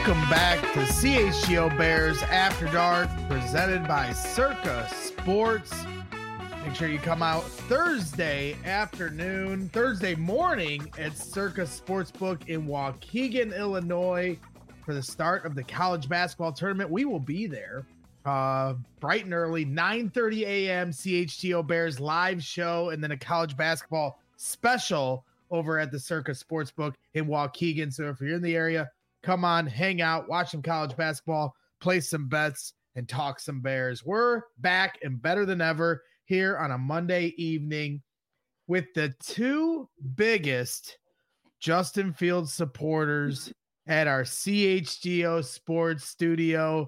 Welcome back to CHGO Bears After Dark, presented by Circa Sports. Make sure you come out Thursday morning at Circa Sportsbook in Waukegan, Illinois for the start of the college basketball tournament. We will be there bright and early, 9:30 a.m. CHGO Bears live show, and then a college basketball special over at the Circa Sportsbook in Waukegan. So if you're in the area, come on, hang out, watch some college basketball, play some bets, and talk some Bears. We're back and better than ever here on a Monday evening with the two biggest Justin Fields supporters at our CHGO Sports studio.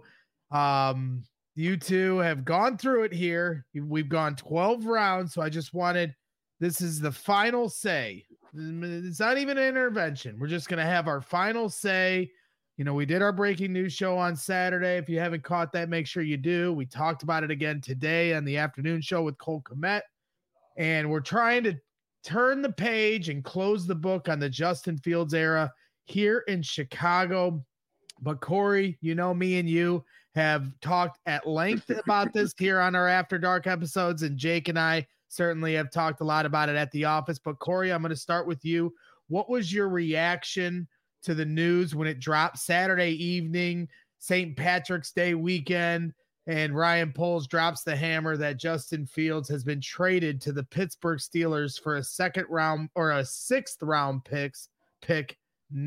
You two have gone through it here. We've gone 12 rounds, so I just wanted, this is the final say. It's not even an intervention. We're just going to have our final say. You know, we did our breaking news show on Saturday. If you haven't caught that, make sure you do. We talked about it again today on the afternoon show with Cole Kmet. And we're trying to turn the page and close the book on the Justin Fields era here in Chicago. But Corey, you know, me and you have talked at length about this here on our After Dark episodes, and Jake and I certainly have talked a lot about it at the office. But Corey, I'm going to start with you. What was your reaction to the news when it dropped Saturday evening, St. Patrick's Day weekend, and Ryan Poles drops the hammer that Justin Fields has been traded to the Pittsburgh Steelers for a second round or a sixth round pick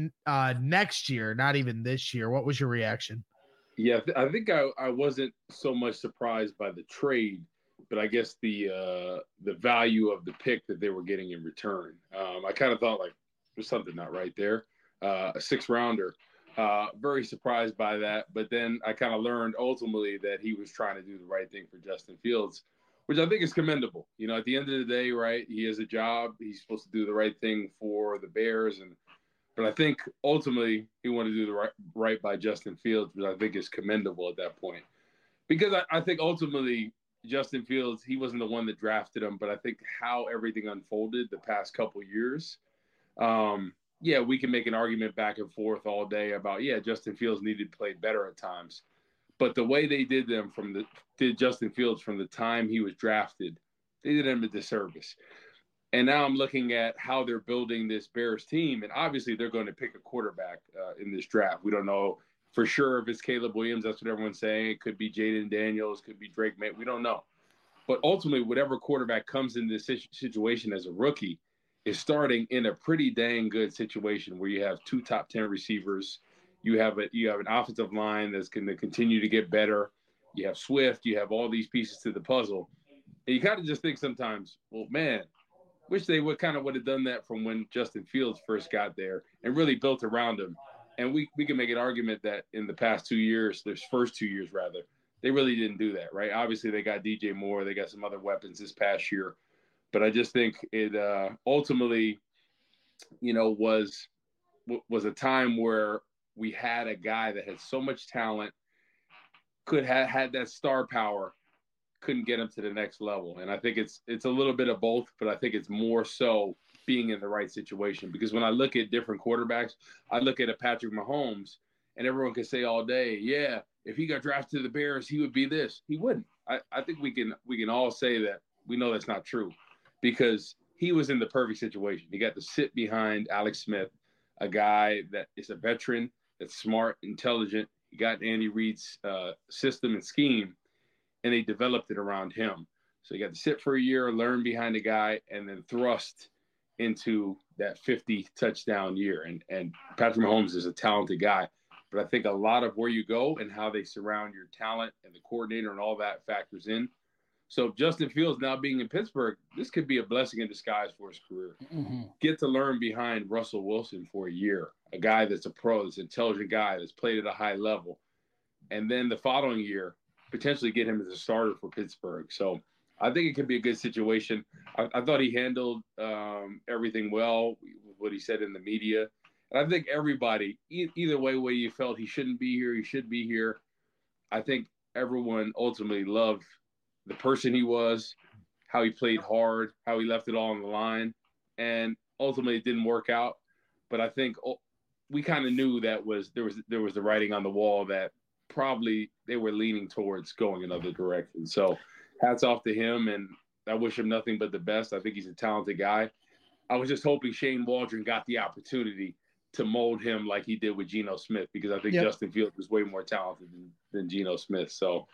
next year, not even this year? What was your reaction? Yeah, I think I wasn't so much surprised by the trade, but I guess the value of the pick that they were getting in return. I kind of thought, like, there's something not right there. A sixth rounder. Very surprised by that. But then I kind of learned ultimately that he was trying to do the right thing for Justin Fields, which I think is commendable. You know, at the end of the day, right, he has a job. He's supposed to do the right thing for the Bears. But I think ultimately he wanted to do the right by Justin Fields, which I think is commendable at that point. Because I think ultimately Justin Fields, he wasn't the one that drafted him, but I think how everything unfolded the past couple years, yeah, we can make an argument back and forth all day about, yeah, Justin Fields needed to play better at times. But the way they did Justin Fields from the time he was drafted, they did him a disservice. And now I'm looking at how they're building this Bears team, and obviously they're going to pick a quarterback in this draft. We don't know for sure if it's Caleb Williams. That's what everyone's saying. It could be Jaden Daniels, could be Drake May. We don't know. But ultimately, whatever quarterback comes in this situation as a rookie is starting in a pretty dang good situation where you have two top 10 receivers. You have an offensive line that's going to continue to get better. You have Swift. You have all these pieces to the puzzle. And you kind of just think sometimes, well, man, wish they would have done that from when Justin Fields first got there and really built around him. And we can make an argument that in the past 2 years, their first 2 years rather, they really didn't do that, right? Obviously, they got DJ Moore. They got some other weapons this past year. But I just think it ultimately, you know, was a time where we had a guy that had so much talent, could have had that star power, couldn't get him to the next level. And I think it's a little bit of both, but I think it's more so being in the right situation. Because when I look at different quarterbacks, I look at a Patrick Mahomes, and everyone can say all day, yeah, if he got drafted to the Bears, he would be this. He wouldn't. I think we can all say that we know that's not true, because he was in the perfect situation. He got to sit behind Alex Smith, a guy that is a veteran, that's smart, intelligent. He got Andy Reid's system and scheme, and they developed it around him. So he got to sit for a year, learn behind a guy, and then thrust into that 50 touchdown year. And Patrick Mahomes is a talented guy, but I think a lot of where you go and how they surround your talent and the coordinator and all that factors in. So Justin Fields now being in Pittsburgh, this could be a blessing in disguise for his career. Mm-hmm. Get to learn behind Russell Wilson for a year, a guy that's a pro, that's an intelligent guy, that's played at a high level. And then the following year, potentially get him as a starter for Pittsburgh. So I think it could be a good situation. I thought he handled everything well, what he said in the media. And I think everybody, either way you felt he shouldn't be here, he should be here. I think everyone ultimately loved the person he was, how he played hard, how he left it all on the line. And ultimately it didn't work out. But I think we kind of knew there was the writing on the wall that probably they were leaning towards going another direction. So hats off to him, and I wish him nothing but the best. I think he's a talented guy. I was just hoping Shane Waldron got the opportunity to mold him like he did with Geno Smith, because I think Justin Fields is way more talented than Geno Smith. So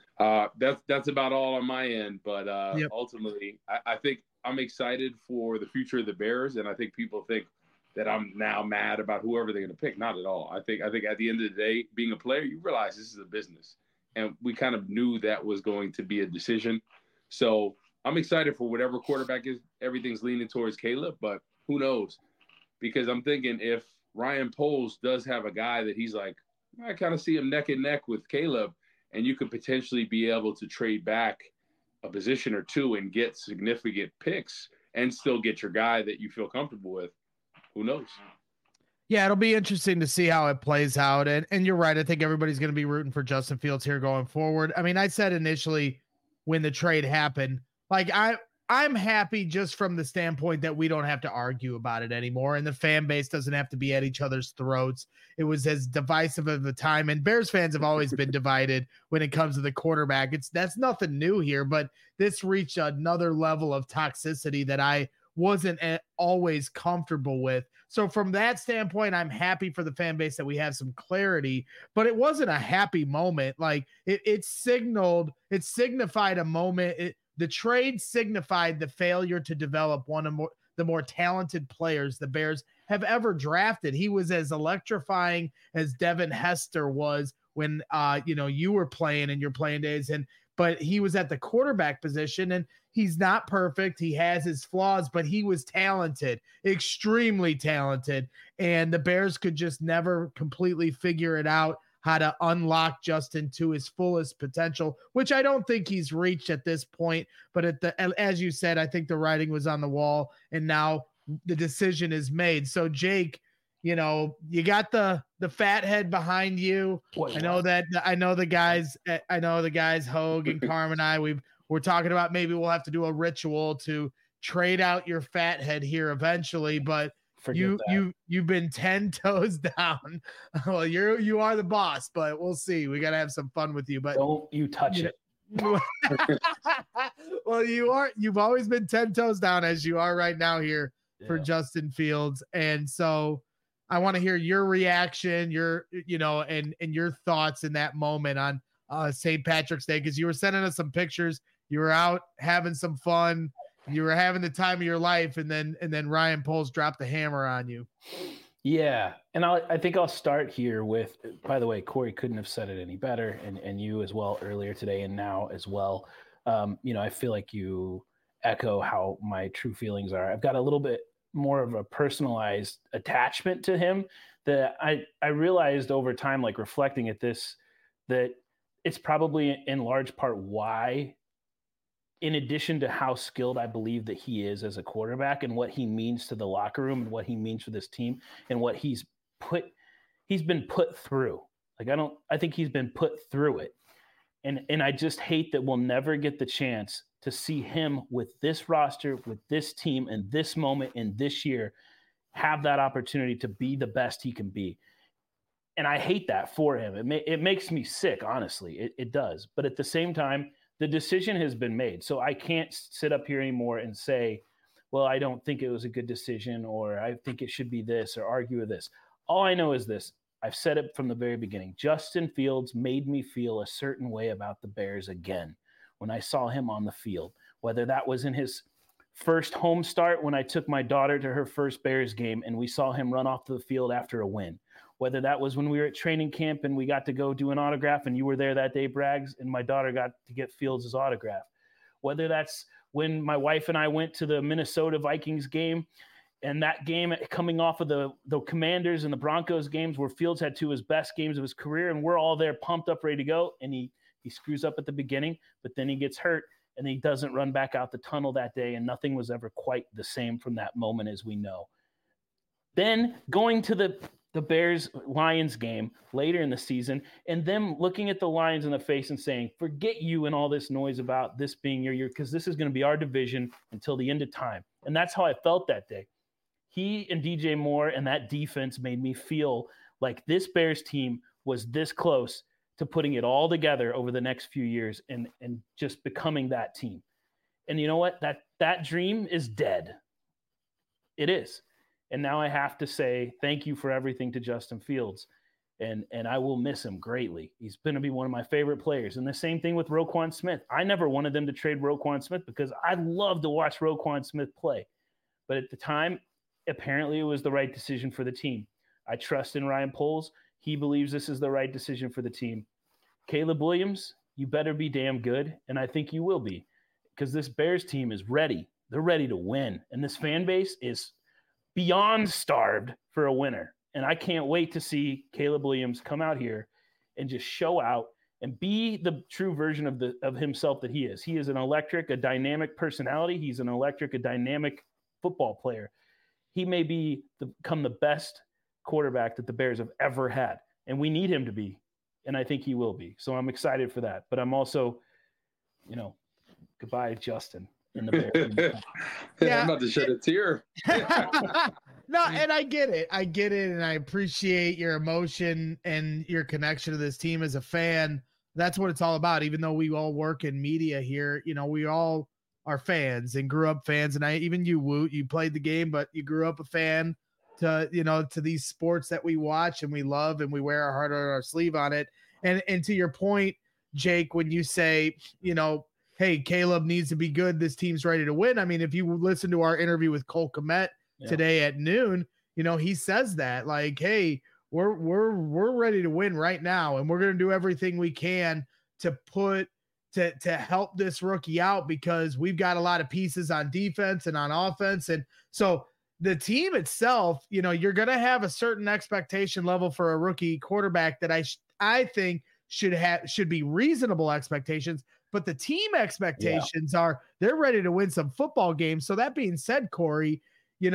that's about all on my end. But ultimately, I think I'm excited for the future of the Bears, and I think people think that I'm now mad about whoever they're going to pick. Not at all. I think at the end of the day, being a player, you realize this is a business, and we kind of knew that was going to be a decision. So I'm excited for whatever quarterback is. Everything's leaning towards Caleb, but who knows? Because I'm thinking if Ryan Poles does have a guy that he's like, I kind of see him neck and neck with Caleb, and you could potentially be able to trade back a position or two and get significant picks and still get your guy that you feel comfortable with. Who knows? Yeah, it'll be interesting to see how it plays out. And you're right. I think everybody's going to be rooting for Justin Fields here going forward. I mean, I said initially when the trade happened, like I'm happy just from the standpoint that we don't have to argue about it anymore, and the fan base doesn't have to be at each other's throats. It was as divisive of a time, and Bears fans have always been divided when it comes to the quarterback. That's nothing new here, but this reached another level of toxicity that I wasn't always comfortable with. So from that standpoint, I'm happy for the fan base that we have some clarity, but it wasn't a happy moment. Like it signified a moment. The trade signified the failure to develop one of the more talented players the Bears have ever drafted. He was as electrifying as Devin Hester was when you were playing in your playing days, but he was at the quarterback position, and he's not perfect. He has his flaws, but he was talented, extremely talented, and the Bears could just never completely figure it out how to unlock Justin to his fullest potential, which I don't think he's reached at this point. But as you said, I think the writing was on the wall, and now the decision is made. So Jake, you got the fat head behind you. I know the guys, Hogue and Carm and I, we're talking about maybe we'll have to do a ritual to trade out your fat head here eventually, but you've been 10 toes down. Well, you are the boss, but we'll see. We got to have some fun with you, but don't you touch it. Well, you've always been 10 toes down as you are right now here for Justin Fields. And so I want to hear your reaction, and your thoughts in that moment on St. Patrick's Day, because you were sending us some pictures. You were out having some fun. You were having the time of your life, and then Ryan Poles dropped the hammer on you. Yeah, and I think I'll start here with, by the way, Corey couldn't have said it any better, and you as well earlier today and now as well. I feel like you echo how my true feelings are. I've got a little bit more of a personalized attachment to him that I realized over time, like reflecting at this, that it's probably in large part why, in addition to how skilled I believe that he is as a quarterback and what he means to the locker room and what he means for this team and what he's been put through. Like, I think he's been put through it. And I just hate that we'll never get the chance to see him with this roster, with this team, and this moment in this year, have that opportunity to be the best he can be. And I hate that for him. It makes me sick, honestly. It does. But at the same time, the decision has been made. So I can't sit up here anymore and say, well, I don't think it was a good decision, or I think it should be this, or argue with this. All I know is this. I've said it from the very beginning. Justin Fields made me feel a certain way about the Bears again when I saw him on the field, whether that was in his first home start when I took my daughter to her first Bears game and we saw him run off the field after a win, whether that was when we were at training camp and we got to go do an autograph and you were there that day, Braggs, and my daughter got to get Fields' autograph, whether that's when my wife and I went to the Minnesota Vikings game, and that game coming off of the Commanders and the Broncos games where Fields had two of his best games of his career, and we're all there pumped up, ready to go, and he screws up at the beginning, but then he gets hurt, and he doesn't run back out the tunnel that day, and nothing was ever quite the same from that moment, as we know. Then going to the Bears-Lions game later in the season, and them looking at the Lions in the face and saying, forget you and all this noise about this being your year, because this is going to be our division until the end of time. And that's how I felt that day. He and DJ Moore and that defense made me feel like this Bears team was this close to putting it all together over the next few years and just becoming that team. And you know what? That dream is dead. It is. And now I have to say thank you for everything to Justin Fields. And I will miss him greatly. He's going to be one of my favorite players. And the same thing with Roquan Smith. I never wanted them to trade Roquan Smith because I love to watch Roquan Smith play. But at the time, apparently it was the right decision for the team. I trust in Ryan Poles. He believes this is the right decision for the team. Caleb Williams, you better be damn good, and I think you will be, because this Bears team is ready. They're ready to win, and this fan base is beyond starved for a winner. And I can't wait to see Caleb Williams come out here and just show out and be the true version of himself that he is. He is an electric, a dynamic personality. He's an electric, a dynamic football player. He may become the best quarterback that the Bears have ever had, and we need him to be, and I think he will be. So I'm excited for that. But I'm also, goodbye, Justin. In the Bears. Yeah, I'm about to shed a tear. No, and I get it. And I appreciate your emotion and your connection to this team as a fan. That's what it's all about. Even though we all work in media here, we all are fans and grew up fans. And even you, Woot, you played the game, but you grew up a fan to these sports that we watch and we love and we wear our heart on our sleeve on it. And to your point, Jake, when you say, hey, Caleb needs to be good, this team's ready to win. I mean, if you listen to our interview with Cole Kmet today at noon, he says that, like, hey, we're ready to win right now, and we're going to do everything we can to help this rookie out, because we've got a lot of pieces on defense and on offense. And so the team itself, you're going to have a certain expectation level for a rookie quarterback that I think should be reasonable expectations. But the team expectations are they're ready to win some football games. So that being said, Corey,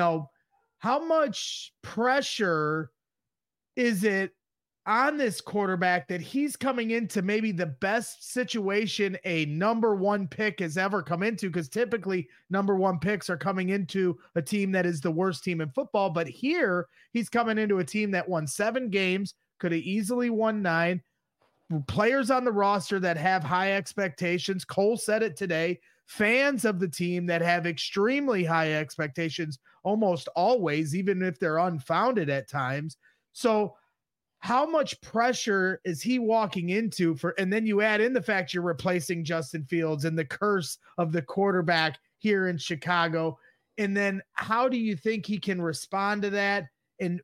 how much pressure is it on this quarterback that he's coming into maybe the best situation a number one pick has ever come into? Because typically number one picks are coming into a team that is the worst team in football. But here he's coming into a team that won 7 games, could have easily won 9. Players on the roster that have high expectations. Cole said it today. Fans of the team that have extremely high expectations almost always, even if they're unfounded at times. So how much pressure is he walking into and then you add in the fact you're replacing Justin Fields and the curse of the quarterback here in Chicago. And then how do you think he can respond to that? And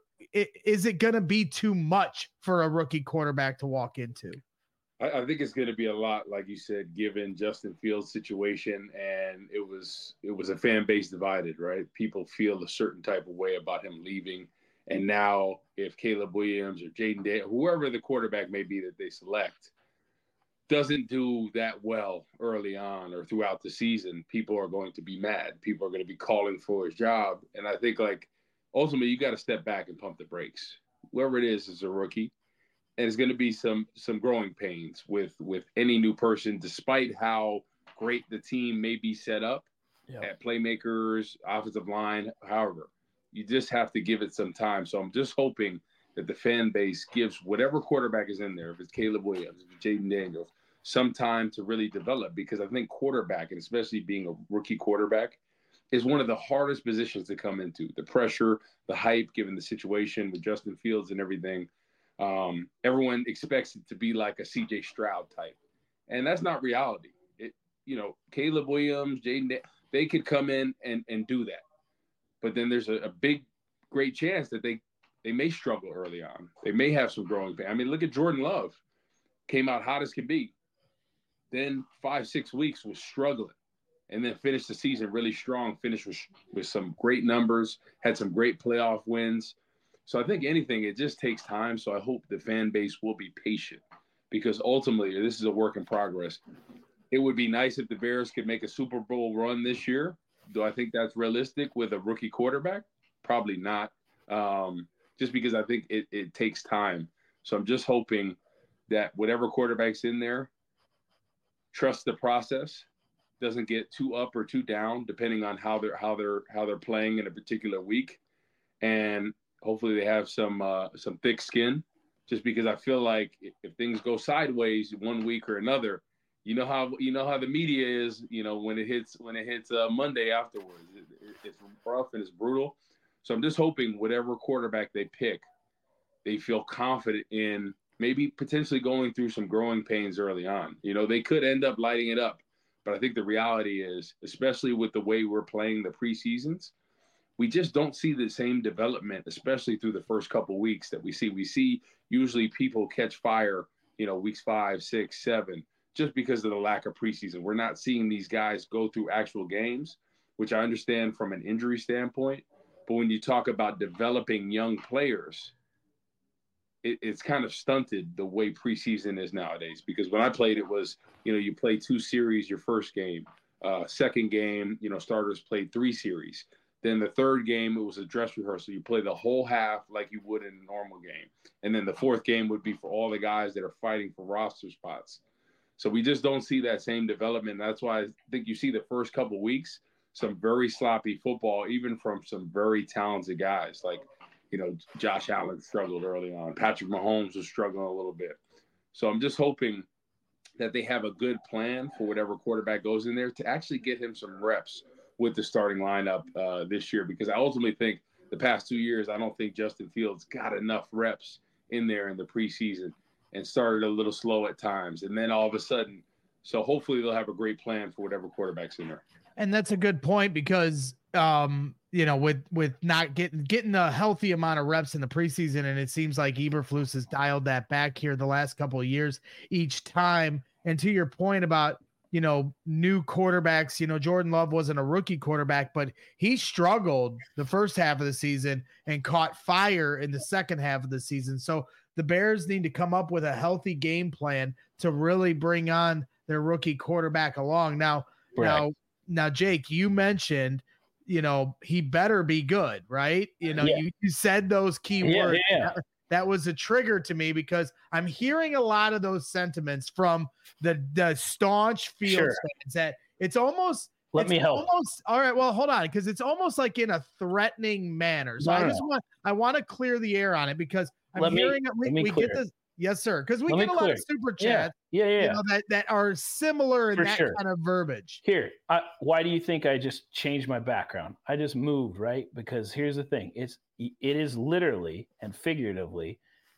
is it going to be too much for a rookie quarterback to walk into? I think it's going to be a lot, like you said, given Justin Fields' situation, and it was a fan base divided, right? People feel a certain type of way about him leaving, and now if Caleb Williams or Jaden Daniels, whoever the quarterback may be that they select, doesn't do that well early on or throughout the season, people are going to be mad. People are going to be calling for his job, and I think ultimately, you got to step back and pump the brakes. Whoever it is a rookie, and it's going to be some growing pains with any new person, despite how great the team may be set up at playmakers, offensive line. However, you just have to give it some time. So I'm just hoping that the fan base gives whatever quarterback is in there, if it's Caleb Williams, if it's Jaden Daniels, some time to really develop, because I think quarterback, and especially being a rookie quarterback, is one of the hardest positions to come into. The pressure, the hype, given the situation with Justin Fields and everything. Everyone expects it to be like a CJ Stroud type. And that's not reality. Caleb Williams, Jaden, they could come in and do that. But then there's a big, great chance that they may struggle early on. They may have some growing pain. I mean, look at Jordan Love. Came out hot as can be. Then 5-6 weeks was struggling. And then finished the season really strong, finished with some great numbers, had some great playoff wins. So I think anything, it just takes time. So I hope the fan base will be patient, because ultimately this is a work in progress. It would be nice if the Bears could make a Super Bowl run this year. Do I think that's realistic with a rookie quarterback? Probably not, just because I think it takes time. So I'm just hoping that whatever quarterback's in there, trust the process. doesn't get too up or too down, depending on how they're playing in a particular week, and hopefully they have some thick skin. Just because I feel like if things go sideways one week or another, you know how the media is. When it hits Monday afterwards, it's rough and it's brutal. So I'm just hoping whatever quarterback they pick, they feel confident in, maybe potentially going through some growing pains early on. They could end up lighting it up. But I think the reality is, especially with the way we're playing the preseasons, we just don't see the same development, especially through the first couple weeks that we see. We see usually people catch fire, weeks 5, 6, 7, just because of the lack of preseason. We're not seeing these guys go through actual games, which I understand from an injury standpoint. But when you talk about developing young players, it's kind of stunted the way preseason is nowadays. Because when I played, it was, you play 2 series your first game. Second game, starters played 3 series. Then the third game, it was a dress rehearsal. You play the whole half like you would in a normal game. And then the fourth game would be for all the guys that are fighting for roster spots. So we just don't see that same development. That's why I think you see the first couple of weeks, some very sloppy football, even from some very talented guys. Like, Josh Allen struggled early on. Patrick Mahomes was struggling a little bit. So I'm just hoping that they have a good plan for whatever quarterback goes in there to actually get him some reps with the starting lineup this year, because I ultimately think the past 2 years, I don't think Justin Fields got enough reps in there in the preseason and started a little slow at times. And then all of a sudden, so hopefully they'll have a great plan for whatever quarterback's in there. And that's a good point because, with not getting a healthy amount of reps in the preseason, and it seems like Eberflus has dialed that back here the last couple of years each time. And to your point about, new quarterbacks, Jordan Love wasn't a rookie quarterback, but he struggled the first half of the season and caught fire in the second half of the season. So the Bears need to come up with a healthy game plan to really bring on their rookie quarterback along. Now, Jake, you mentioned, he better be good, right? You said those key words. That was a trigger to me because I'm hearing a lot of those sentiments from the staunch Fields fans that it's almost. Let me help. All right. Well, hold on, because it's almost like in a threatening manner. So I want to clear the air on it because I'm hearing we get this. Yes, sir. Because we get a lot of super chats. That are similar in that kind of verbiage. Here, why do you think I just changed my background? I just moved, right? Because here's the thing: it is literally and figuratively,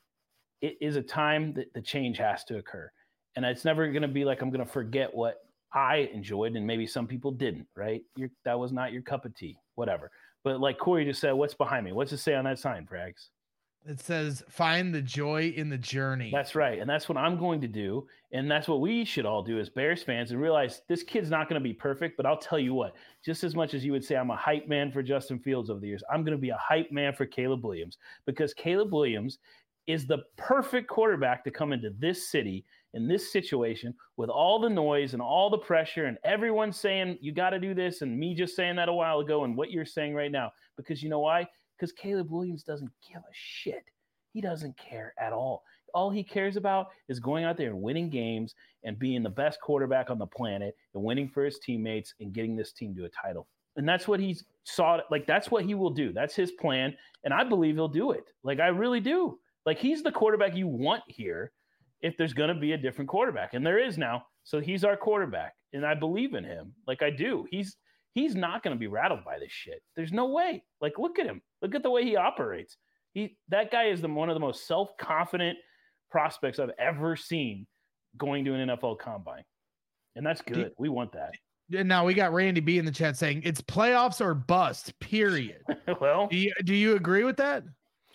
it is a time that the change has to occur, and it's never going to be like I'm going to forget what I enjoyed, and maybe some people didn't. Right? That was not your cup of tea, whatever. But like Corey just said, what's behind me? What's it say on that sign, Frags? It says, find the joy in the journey. That's right. And that's what I'm going to do. And that's what we should all do as Bears fans and realize this kid's not going to be perfect. But I'll tell you what, just as much as you would say I'm a hype man for Justin Fields over the years, I'm going to be a hype man for Caleb Williams, because Caleb Williams is the perfect quarterback to come into this city in this situation with all the noise and all the pressure and everyone saying, you got to do this. And me just saying that a while ago and what you're saying right now, because you know why? Because Caleb Williams doesn't give a shit. He doesn't care at all. All he cares about is going out there and winning games and being the best quarterback on the planet and winning for his teammates and getting this team to a title. And that's what he's sought. Like, that's what he will do. That's his plan. And I believe he'll do it. Like, I really do. Like, he's the quarterback you want here if there's going to be a different quarterback. And there is now. So he's our quarterback. And I believe in him. Like, I do. He's not going to be rattled by this shit. There's no way. Like, look at him. Look at the way he operates. That guy is one of the most self-confident prospects I've ever seen going to an NFL combine. And that's good. We want that. And now we got Randy B in the chat saying it's playoffs or bust, period. Well, do you agree with that?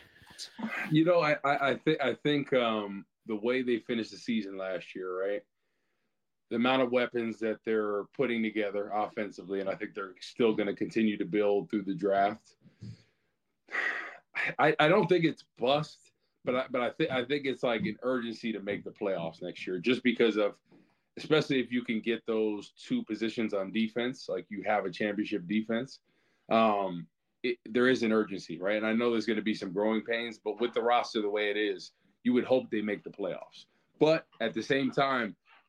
I think the way they finished the season last year, right? The amount of weapons that they're putting together offensively, and I think they're still going to continue to build through the draft. I don't think it's bust, but I think it's like an urgency to make the playoffs next year, just because of, especially if you can get those 2 positions on defense, like you have a championship defense. There is an urgency, right? And I know there's going to be some growing pains, but with the roster the way it is, you would hope they make the playoffs. But at the same time,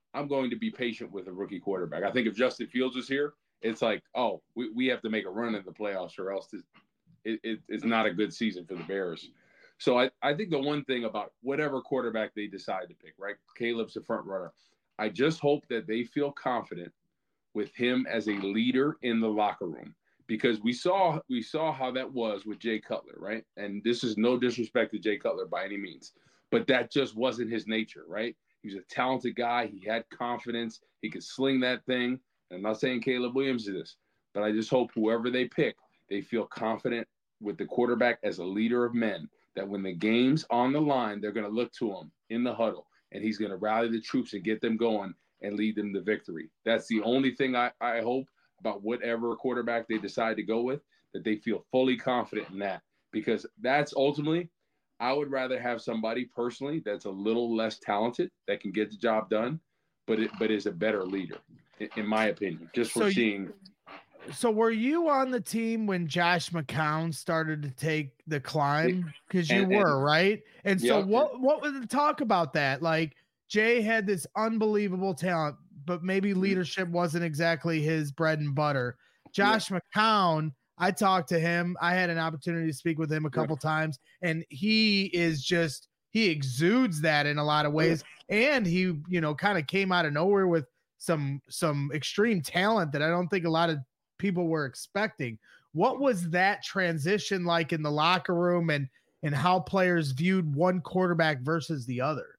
I'm going to be patient with a rookie quarterback. I think if Justin Fields was here, it's like, oh, we have to make a run in the playoffs or else it's not a good season for the Bears. So I think the one thing about whatever quarterback they decide to pick, right? Caleb's the front runner. I just hope that they feel confident with him as a leader in the locker room, because we saw how that was with Jay Cutler, right? And this is no disrespect to Jay Cutler by any means, but that just wasn't his nature, right? He was a talented guy. He had confidence. He could sling that thing. And I'm not saying Caleb Williams is this, but I just hope whoever they pick, they feel confident with the quarterback as a leader of men, that when the game's on the line, they're going to look to him in the huddle, and he's going to rally the troops and get them going and lead them to victory. That's the only thing I hope about whatever quarterback they decide to go with, that they feel fully confident in that, because that's ultimately, I would rather have somebody personally that's a little less talented that can get the job done, but is a better leader, in my opinion, just for seeing. So were you on the team when Josh McCown started to take the climb? Because you were, right? And so what was the talk about that? Like, Jay had this unbelievable talent, but maybe leadership wasn't exactly his bread and butter. Josh McCown, I talked to him. I had an opportunity to speak with him a couple times, and he exudes that in a lot of ways. And he, kind of came out of nowhere with some extreme talent that I don't think a lot of people were expecting. What was that transition like in the locker room, and how players viewed one quarterback versus the other?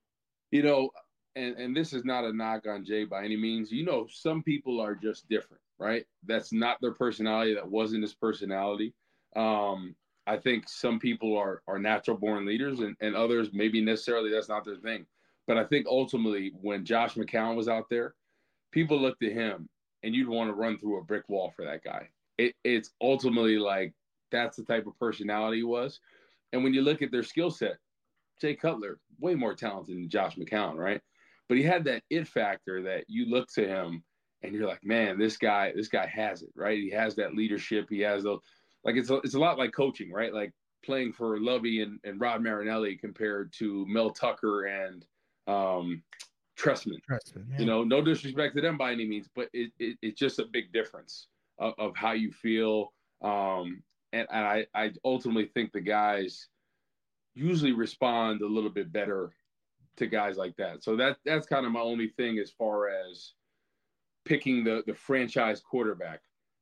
And this is not a knock on Jay by any means. Some people are just different, right? That's not their personality. That wasn't his personality. I think some people are natural born leaders, and others maybe necessarily that's not their thing. But I think ultimately when Josh McCown was out there, people looked at him and you'd want to run through a brick wall for that guy. It's ultimately like that's the type of personality he was. And when you look at their skill set, Jay Cutler, way more talented than Josh McCown, right? But he had that it factor that you look to him and you're like, man, this guy has it, right? He has that leadership. He has those, like, it's a lot like coaching, right? Like playing for Lovey and Rod Marinelli compared to Mel Tucker and Trestman. No disrespect to them by any means, but it's just a big difference of how you feel. And I ultimately think the guys usually respond a little bit better to guys like that. So that's kind of my only thing as far as picking the franchise quarterback.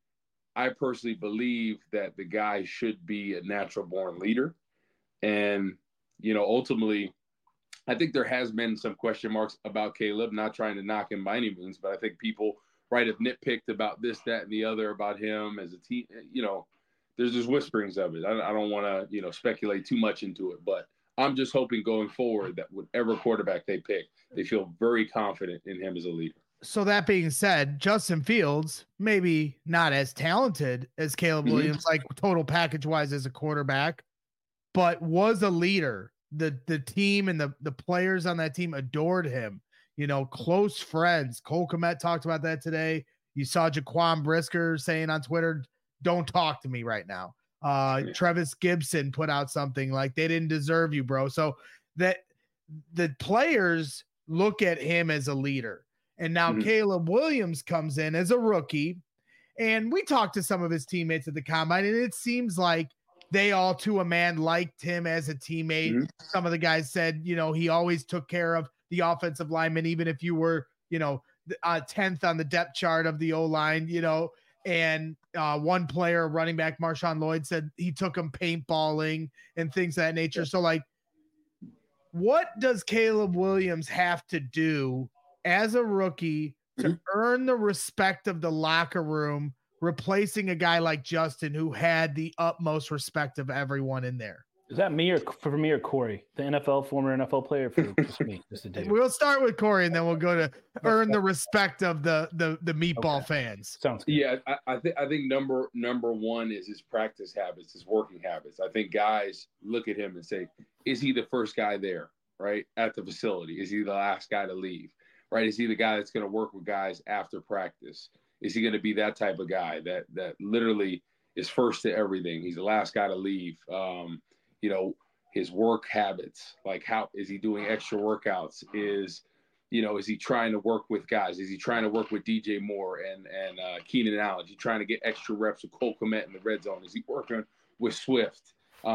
I personally believe that the guy should be a natural born leader. And, ultimately, I think there has been some question marks about Caleb, not trying to knock him by any means, but I think people have nitpicked about this, that, and the other about him as a team. There's just whisperings of it. I don't want to, speculate too much into it, but I'm just hoping going forward that whatever quarterback they pick, they feel very confident in him as a leader. So that being said, Justin Fields, maybe not as talented as Caleb Williams, like total package wise as a quarterback, but was a leader. The team and the players on that team adored him, close friends. Cole Kmet talked about that today. You saw Jaquan Brisker saying on Twitter, don't talk to me right now. Trevis Gibson put out something like they didn't deserve you, bro. So that the players look at him as a leader. And now Caleb Williams comes in as a rookie. And we talked to some of his teammates at the combine, and it seems like they all to a man liked him as a teammate. Some of the guys said, he always took care of the offensive lineman, even if you were, 10th on the depth chart of the O-line, and one player, running back Marshawn Lloyd, said he took him paintballing and things of that nature. Yeah. So, like, what does Caleb Williams have to do as a rookie to earn the respect of the locker room, replacing a guy like Justin, who had the utmost respect of everyone in there? Is that me or Corey, the former NFL player, for just me? Just a dude. We'll start with Corey, and then we'll go to earn the respect of the meatball fans. Sounds good. Yeah, I think number one is his practice habits, his working habits. I think guys look at him and say, is he the first guy there, right, at the facility? Is he the last guy to leave, right? Is he the guy that's going to work with guys after practice? Is he going to be that type of guy that literally is first to everything? He's the last guy to leave. His work habits, like how is he doing extra workouts? Is, Is he trying to work with guys? Is he trying to work with DJ Moore and Keenan Allen? Is he trying to get extra reps with Cole Kmet in the red zone? Is he working with Swift?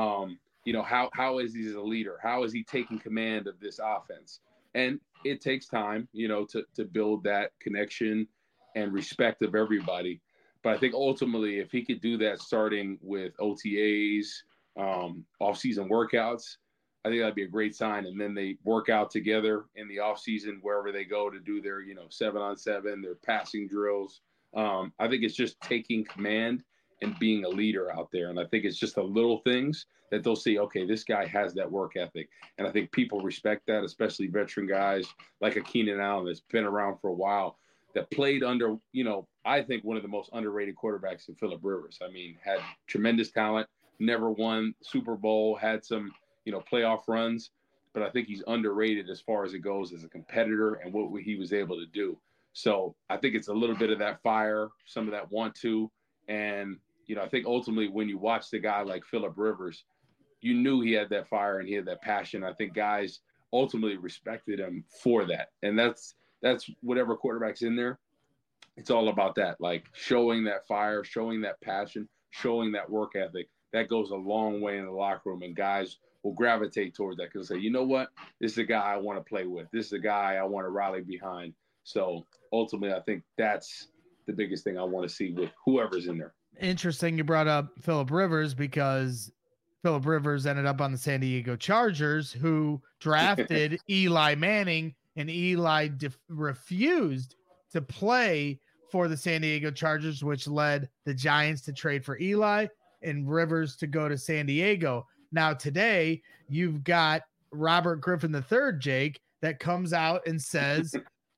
How is he as a leader? How is he taking command of this offense? And it takes time, to build that connection and respect of everybody. But I think ultimately, if he could do that starting with OTAs, off-season workouts, I think that'd be a great sign. And then they work out together in the offseason wherever they go to do their, 7-on-7, their passing drills. I think it's just taking command and being a leader out there. And I think it's just the little things that they'll see, okay, this guy has that work ethic. And I think people respect that, especially veteran guys like a Keenan Allen that's been around for a while, that played under, I think one of the most underrated quarterbacks in Phillip Rivers. I mean, had tremendous talent, never won Super Bowl, had some, playoff runs, but I think he's underrated as far as it goes as a competitor and what he was able to do. So I think it's a little bit of that fire, some of that want to, and, I think ultimately when you watch the guy like Phillip Rivers, you knew he had that fire and he had that passion. I think guys ultimately respected him for that. And that's whatever quarterback's in there. It's all about that, like showing that fire, showing that passion, showing that work ethic. That goes a long way in the locker room, and guys will gravitate towards that because they say, you know what, this is a guy I want to play with. This is a guy I want to rally behind. So ultimately, I think that's the biggest thing I want to see with whoever's in there. Interesting you brought up Phillip Rivers, because Phillip Rivers ended up on the San Diego Chargers, who drafted Eli Manning, and Eli refused to play for the San Diego Chargers, which led the Giants to trade for Eli and Rivers to go to San Diego. Now today you've got Robert Griffin III, Jake, that comes out and says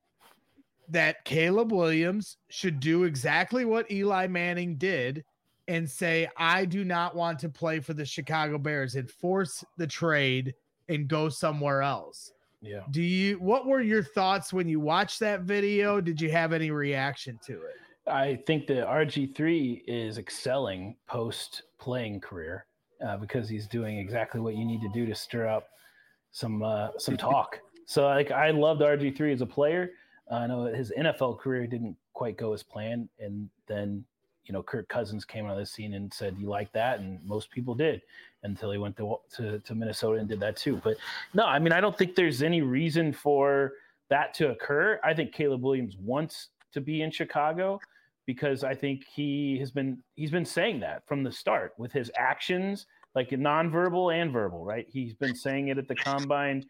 that Caleb Williams should do exactly what Eli Manning did and say, I do not want to play for the Chicago Bears, and force the trade and go somewhere else. Yeah. What were your thoughts when you watched that video? Did you have any reaction to it? I think that RG3 is excelling post playing career because he's doing exactly what you need to do to stir up some talk. So I loved RG3 as a player. I know his NFL career didn't quite go as planned. And then, Kirk Cousins came on the scene and said, you like that? And most people did, until he went to Minnesota and did that too. But no, I mean, I don't think there's any reason for that to occur. I think Caleb Williams wants to be in Chicago because I think he's been saying that from the start with his actions, like nonverbal and verbal, right? He's been saying it at the combine.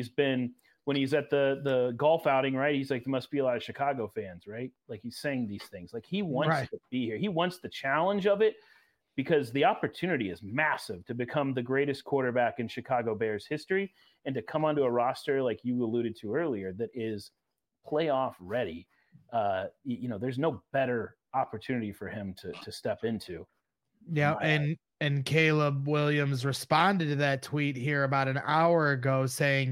When he's at the golf outing, right? He's like, there must be a lot of Chicago fans, right? Like he's saying these things. Like he wants to be here. He wants the challenge of it because the opportunity is massive to become the greatest quarterback in Chicago Bears history and to come onto a roster like you alluded to earlier that is playoff ready. There's no better opportunity for him to step into. Yeah, and Caleb Williams responded to that tweet here about an hour ago saying,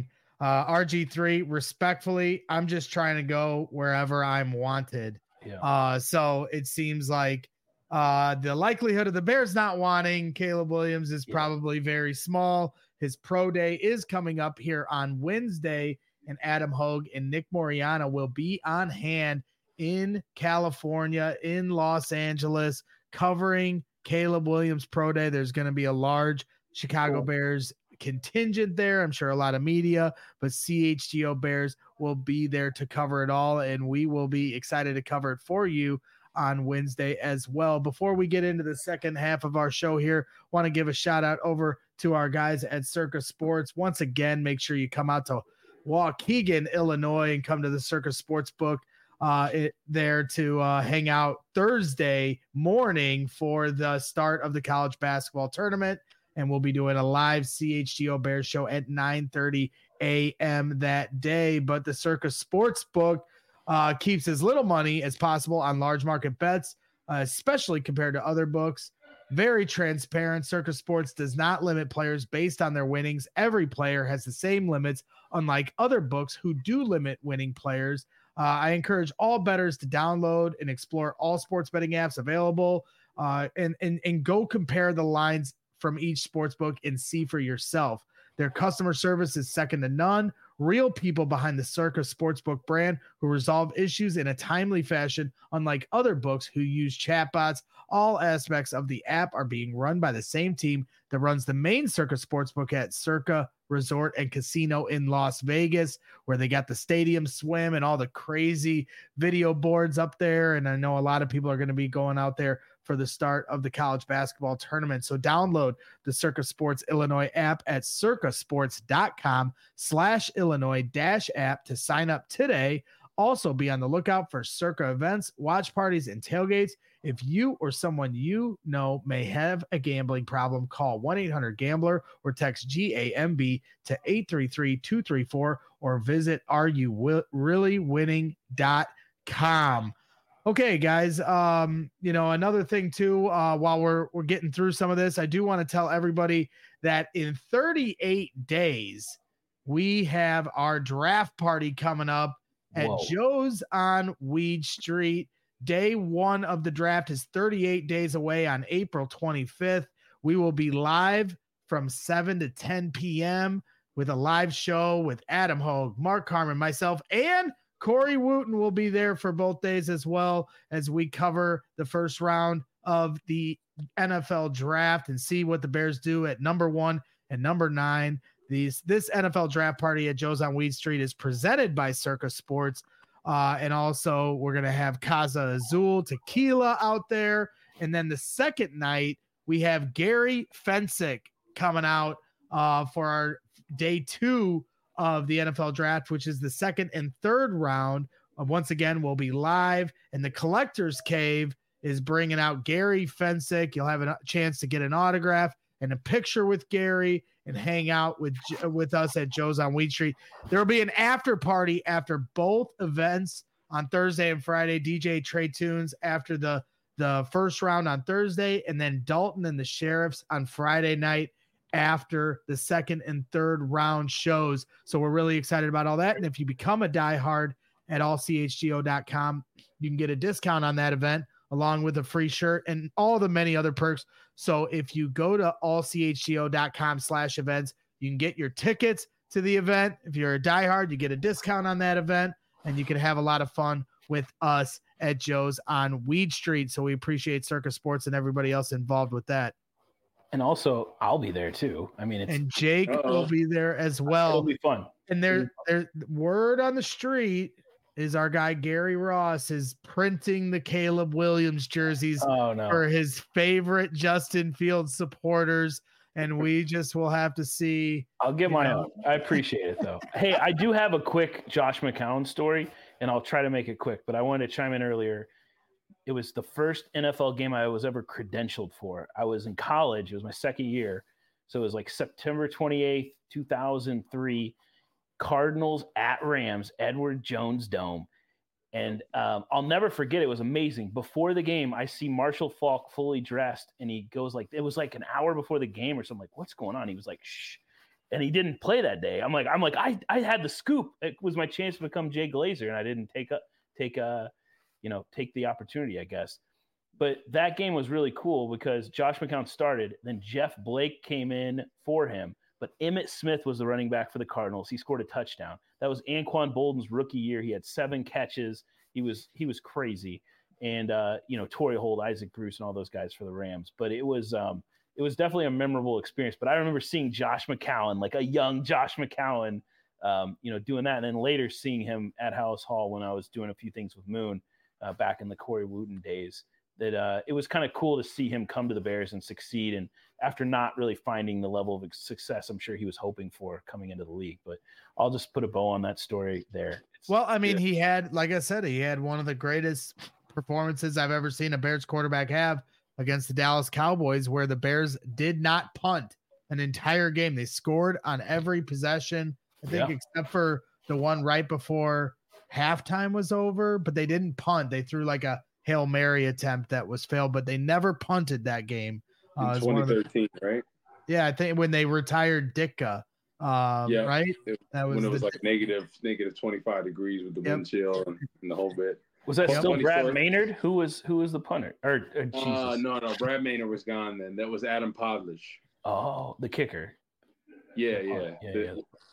RG3, respectfully, I'm just trying to go wherever I'm wanted. Yeah. So it seems like the likelihood of the Bears not wanting Caleb Williams is probably very small. His pro day is coming up here on Wednesday, and Adam Hogue and Nick Moriana will be on hand in California, in Los Angeles, covering Caleb Williams pro day. There's going to be a large Chicago Bears contingent there. I'm sure a lot of media, but CHGO Bears will be there to cover it all, and we will be excited to cover it for you on Wednesday as well. Before we get into the second half of our show here, want to give a shout out over to our guys at Circa Sports. Once again, make sure you come out to Waukegan, Illinois, and come to the Circa Sportsbook there to hang out Thursday morning for the start of the college basketball tournament. And we'll be doing a live CHGO Bears show at 9:30 a.m. that day. But the Circa Sportsbook keeps as little money as possible on large market bets, especially compared to other books. Very transparent. Circa Sports does not limit players based on their winnings. Every player has the same limits, unlike other books who do limit winning players. I encourage all bettors to download and explore all sports betting apps available and go compare the lines from each sports book and see for yourself. Their customer service is second to none. real people behind the Circa Sportsbook brand who resolve issues in a timely fashion, unlike other books who use chatbots. All aspects of the app are being run by the same team that runs the main Circa Sportsbook at Circa Resort and Casino in Las Vegas, where they got the stadium swim and all the crazy video boards up there. And I know a lot of people are going to be going out there for the start of the college basketball tournament. So download the Circa Sports Illinois app at circasports.com/Illinois-app to sign up today. Also be on the lookout for Circa events, watch parties, and tailgates. If you or someone you know may have a gambling problem, call 1-800-GAMBLER or text GAMB to 833-234 or visit areyoureallywinning.com. Okay, guys. Another thing too, while we're getting through some of this, I do want to tell everybody that in 38 days, we have our draft party coming up at Joe's on Weed Street. Day one of the draft is 38 days away on April 25th. We will be live from 7 to 10 p.m. with a live show with Adam Hogue, Mark Carmen, myself, and Corey Wooten will be there for both days as well as we cover the first round of the NFL draft and see what the Bears do at number 1 and number 9. This NFL draft party at Joe's on Weed Street is presented by Circa Sports. And also we're going to have Casa Azul tequila out there. And then the second night we have Gary Fensick coming out for our day 2 of the NFL draft, which is the second and third round. Once again, we'll be live, and the Collector's Cave is bringing out Gary Fensick. You'll have a chance to get an autograph and a picture with Gary and hang out with us at Joe's on Weed Street. There will be an after party after both events on Thursday and Friday. DJ Trey Tunes after the first round on Thursday, and then Dalton and the Sheriffs on Friday night after the second and third round shows. So we're really excited about all that. And if you become a diehard at allchgo.com, you can get a discount on that event along with a free shirt and all the many other perks. So if you go to allchgo.com/events, you can get your tickets to the event. If you're a diehard, you get a discount on that event, and you can have a lot of fun with us at Joe's on Weed Street. So we appreciate Circa Sports and everybody else involved with that. And also, I'll be there too. I mean, and Jake will be there as well. It'll be fun. And there's word on the street is our guy Gary Ross is printing the Caleb Williams jerseys for his favorite Justin Fields supporters, and we just will have to see. I'll get my own. I appreciate it though. Hey, I do have a quick Josh McCown story, and I'll try to make it quick. But I wanted to chime in earlier. It was the first NFL game I was ever credentialed for. I was in college. It was my second year. So it was like September 28th, 2003, Cardinals at Rams, Edward Jones Dome. And I'll never forget. It was amazing. Before the game, I see Marshall Faulk fully dressed, and he goes like, it was like an hour before the game or something. Like, what's going on? He was like, shh. And he didn't play that day. I'm like, I had the scoop. It was my chance to become Jay Glazer, and I didn't take the opportunity, I guess. But that game was really cool because Josh McCown started, then Jeff Blake came in for him, but Emmitt Smith was the running back for the Cardinals. He scored a touchdown. That was Anquan Bolden's rookie year. He had 7 catches. He was crazy. And Torrey Holt, Isaac Bruce, and all those guys for the Rams. But it was definitely a memorable experience. But I remember seeing Josh McCown, like a young Josh McCown, doing that, and then later seeing him at House Hall when I was doing a few things with Moon. Back in the Corey Wooten days, that it was kind of cool to see him come to the Bears and succeed. And after not really finding the level of success I'm sure he was hoping for coming into the league. But I'll just put a bow on that story there. He had, like I said, he had one of the greatest performances I've ever seen a Bears quarterback have against the Dallas Cowboys, where the Bears did not punt an entire game. They scored on every possession, I think, except for the one right before halftime was over, but they didn't punt. They threw like a Hail Mary attempt that was failed, but they never punted that game. In 2013, right? Yeah, I think when they retired Ditka, right? That was when it was like negative 25 degrees with the wind chill and the whole bit. Was that still Brad Maynard? Who was the punter? No, Brad Maynard was gone then. That was Adam Podlish. Oh, the kicker. Yeah.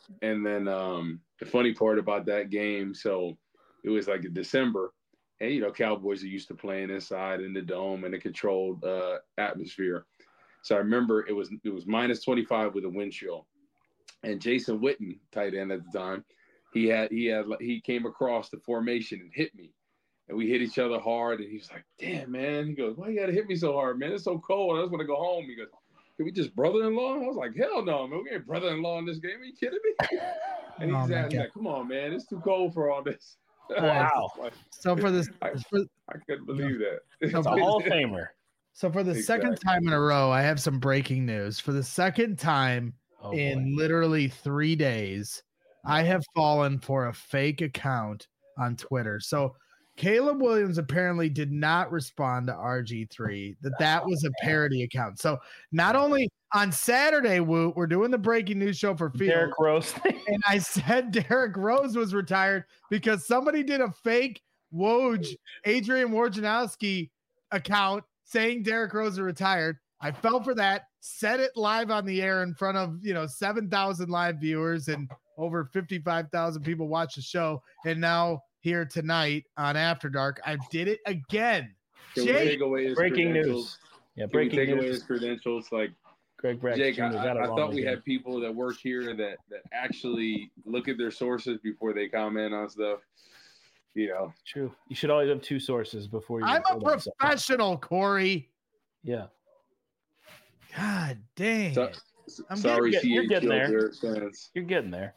And then the funny part about that game, so it was like in December, and Cowboys are used to playing inside in the dome in a controlled atmosphere. So I remember it was minus 25 with a wind chill, and Jason Witten, tight end at the time, he came across the formation and hit me, and we hit each other hard. And he was like, "Damn, man!" He goes, "Why you gotta hit me so hard, man? It's so cold. I just want to go home." He goes, "Can we just brother-in-law?" I was like, "Hell no, man. We ain't brother-in-law in this game. Are you kidding me?" And he's asking, like, "Come on, man. It's too cold for all this." Wow. So for this, I couldn't believe that. It's a Hall of Famer. So for the second time in a row, I have some breaking news. For the second time in literally 3 days, I have fallen for a fake account on Twitter. So Caleb Williams apparently did not respond to RG3, that was a parody account. So not only on Saturday, we're doing the breaking news show for Field. Derrick Rose. And I said Derrick Rose was retired because somebody did a fake Woj, Adrian Wojnarowski account saying Derrick Rose is retired. I fell for that, said it live on the air in front of 7,000 live viewers and over 55,000 people watch the show. And now here tonight on After Dark, I did it again. Can we take away his breaking news? Yeah, breaking news. Away his credentials, like Greg Bragg. Jake, I thought we had people that work here that actually look at their sources before they comment on stuff. True. You should always have two sources before you. I'm a professional, Corey. Yeah. God dang. Sorry, you're getting there. You're getting there.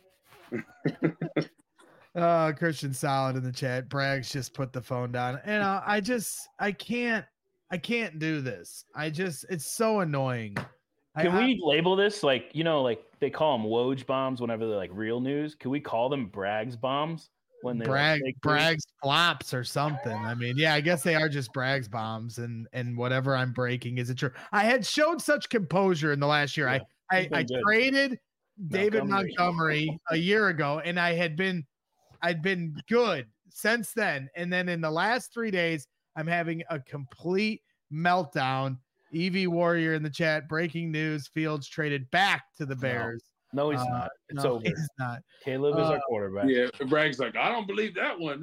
Christian Solid in the chat. Braggs just put the phone down. And I can't do this. It's so annoying. Can we label this like they call them Woj bombs whenever they're like real news? Can we call them Braggs bombs when they Braggs flops or something? I mean, yeah, I guess they are just Braggs bombs, and whatever I'm breaking isn't true. I had showed such composure in the last year. Yeah, I traded David Montgomery a year ago, and I'd been good since then. And then in the last 3 days, I'm having a complete meltdown. EV Warrior in the chat. Breaking news: Fields traded back to the Bears. No, he's not. It's over. He's not. Caleb is our quarterback. Yeah, Bragg's like, I don't believe that one.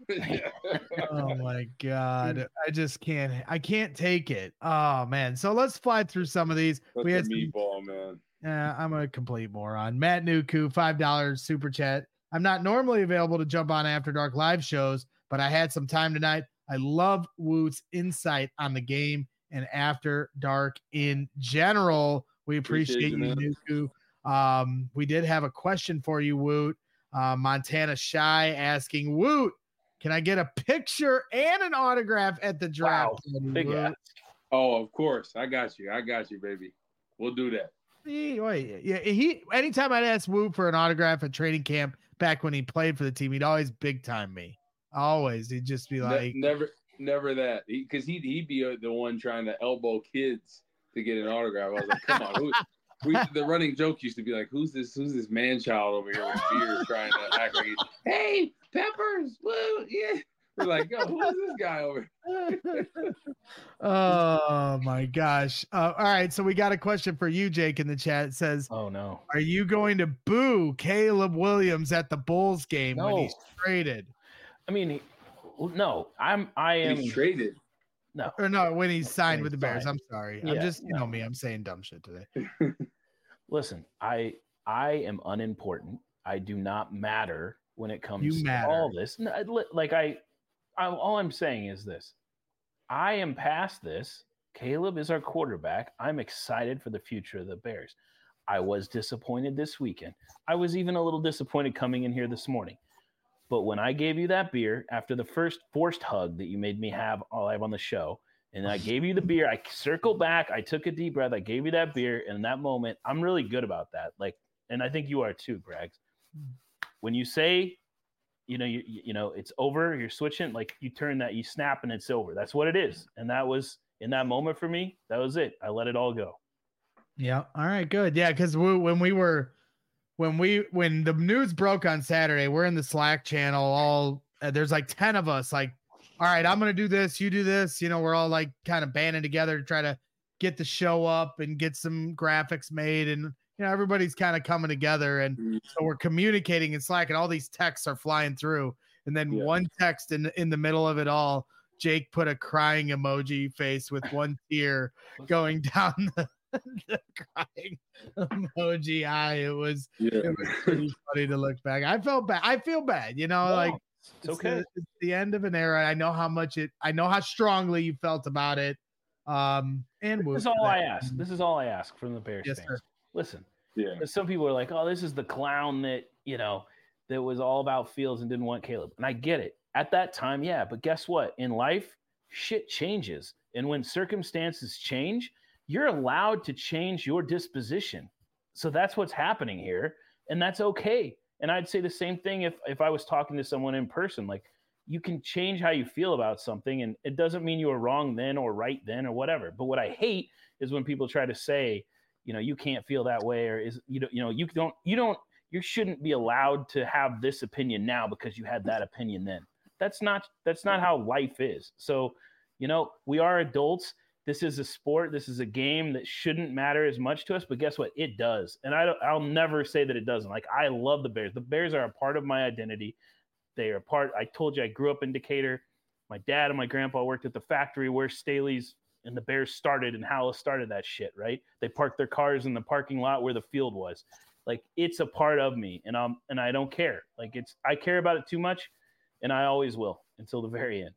Oh my God. I just can't. I can't take it. Oh man. So let's fly through some of these. That's we had meatball, man. Yeah, I'm a complete moron. Matt Nuku, $5 super chat. I'm not normally available to jump on After Dark live shows, but I had some time tonight. I love Woot's insight on the game and After Dark in general. We appreciate you, Nuku. We did have a question for you, Woot. Montana Shy asking, Woot, can I get a picture and an autograph at the draft? Wow. Big ass. Oh, of course. I got you, baby. We'll do that. Anytime I'd ask Woot for an autograph at training camp back when he played for the team, he'd always big time me. Always. He'd just be like, never that. Because he'd be the one trying to elbow kids to get an autograph. I was like, come on, the running joke used to be like, who's this man child over here with beard trying to act like, hey, Peppers, woo, yeah. We're like, yo, who is this guy over here? Oh my gosh. All right, so we got a question for you, Jake, in the chat. It says, oh no, are you going to boo Caleb Williams at the Bulls game when he's traded? I mean, no, I am he's traded. No, or no, when he's signed with the Bears. I'm sorry. Yeah, I'm just, me, I'm saying dumb shit today. Listen, I am unimportant. I do not matter when it comes to all this. All I'm saying is this. I am past this. Caleb is our quarterback. I'm excited for the future of the Bears. I was disappointed this weekend. I was even a little disappointed coming in here this morning. But when I gave you that beer after the first forced hug that you made me have live on the show, and I gave you the beer, I circled back, I took a deep breath, I gave you that beer, and in that moment, I'm really good about that. And I think you are too, Greg. When you say, it's over, you're switching, you turn that, you snap, and it's over. That's what it is. And that was, in that moment for me, that was it. I let it all go. Yeah. All right, good. Yeah, because when the news broke on Saturday, we're in the Slack channel. There's 10 of us. All right, I'm gonna do this. You do this. We're all kind of banding together to try to get the show up and get some graphics made and everybody's kind of coming together, and so we're communicating and Slack, and all these texts are flying through, and then one text in the middle of it all, Jake put a crying emoji face with one tear going down the crying emoji eye. It was pretty funny to look back. I felt bad. I feel bad, like it's okay. It's the end of an era. I know how strongly you felt about it. And this is all I ask. This is all I ask from the Bears fans. Sir. Listen, some people are like, oh, this is the clown that, that was all about Fields and didn't want Caleb. And I get it. At that time, but guess what? In life, shit changes. And when circumstances change, you're allowed to change your disposition. So that's what's happening here. And that's okay. And I'd say the same thing if I was talking to someone in person. Like, you can change how you feel about something, and it doesn't mean you were wrong then or right then or whatever. But what I hate is when people try to say, you can't feel that way, or you shouldn't be allowed to have this opinion now because you had that opinion then. That's not how life is. So, we are adults. This is a sport. This is a game that shouldn't matter as much to us, but guess what? It does. And I'll never say that it doesn't. Like, I love the Bears. The Bears are a part of my identity. They are a part. I told you I grew up in Decatur. My dad and my grandpa worked at the factory where Staley's and the Bears started, and Halas started that shit, right? They parked their cars in the parking lot where the field was. Like, it's a part of me, and I don't care. Like, I care about it too much, and I always will until the very end.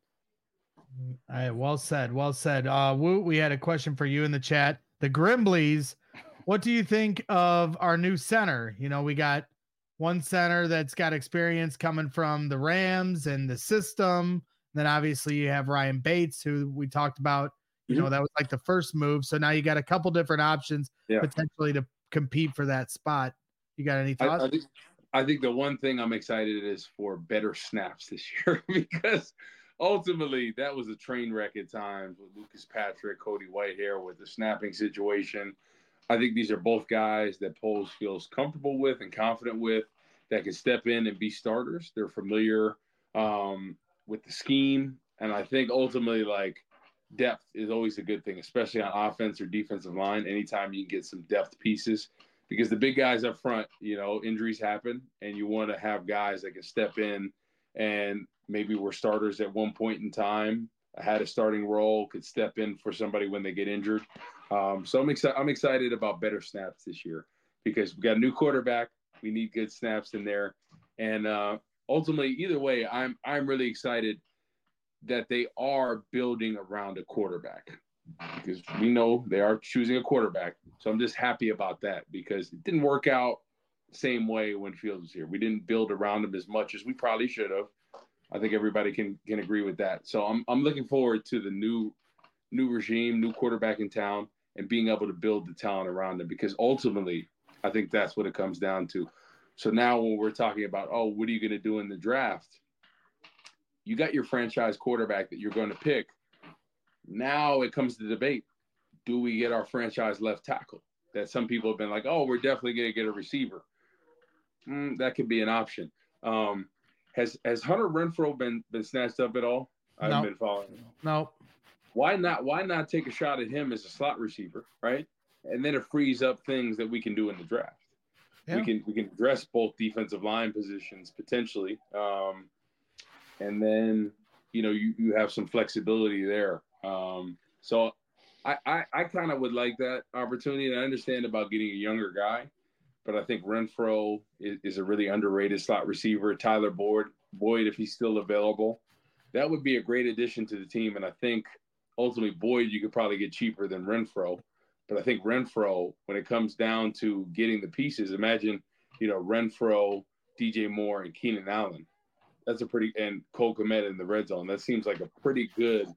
All right, well said. Woot, we had a question for you in the chat. The Grimblies, what do you think of our new center? We got one center that's got experience coming from the Rams and the system. Then obviously you have Ryan Bates, who we talked about. That was like the first move. So now you got a couple different options potentially to compete for that spot. You got any thoughts? I think the one thing I'm excited is for better snaps this year because ultimately that was a train wreck at times with Lucas Patrick, Cody Whitehair with the snapping situation. I think these are both guys that Poles feels comfortable with and confident with, that can step in and be starters. They're familiar with the scheme. And I think ultimately, like, depth is always a good thing, especially on offense or defensive line. Anytime you can get some depth pieces, because the big guys up front, injuries happen, and you want to have guys that can step in and maybe were starters at one point in time, had a starting role, could step in for somebody when they get injured. So I'm excited about better snaps this year because we got a new quarterback. We need good snaps in there. And ultimately, either way, I'm really excited that they are building around a quarterback because we know they are choosing a quarterback. So I'm just happy about that because it didn't work out the same way when Fields was here. We didn't build around him as much as we probably should have. I think everybody can agree with that. So I'm looking forward to the new regime, new quarterback in town, and being able to build the talent around them because ultimately I think that's what it comes down to. So now when we're talking about, what are you going to do in the draft? You got your franchise quarterback that you're going to pick. Now it comes to debate. Do we get our franchise left tackle? That some people have been like, we're definitely going to get a receiver. That could be an option. Has Hunter Renfrow been snatched up at all? I haven't been following him. No. Why not take a shot at him as a slot receiver, right? And then it frees up things that we can do in the draft. Yeah. We can address both defensive line positions potentially. And then, you have some flexibility there. So I kind of would like that opportunity. And I understand about getting a younger guy, but I think Renfrow is a really underrated slot receiver. Tyler Boyd, if he's still available, that would be a great addition to the team. And I think ultimately Boyd, you could probably get cheaper than Renfrow. But I think Renfrow, when it comes down to getting the pieces, imagine, Renfrow, DJ Moore, and Keenan Allen. That's and Cole Kmet in the red zone. That seems like a pretty good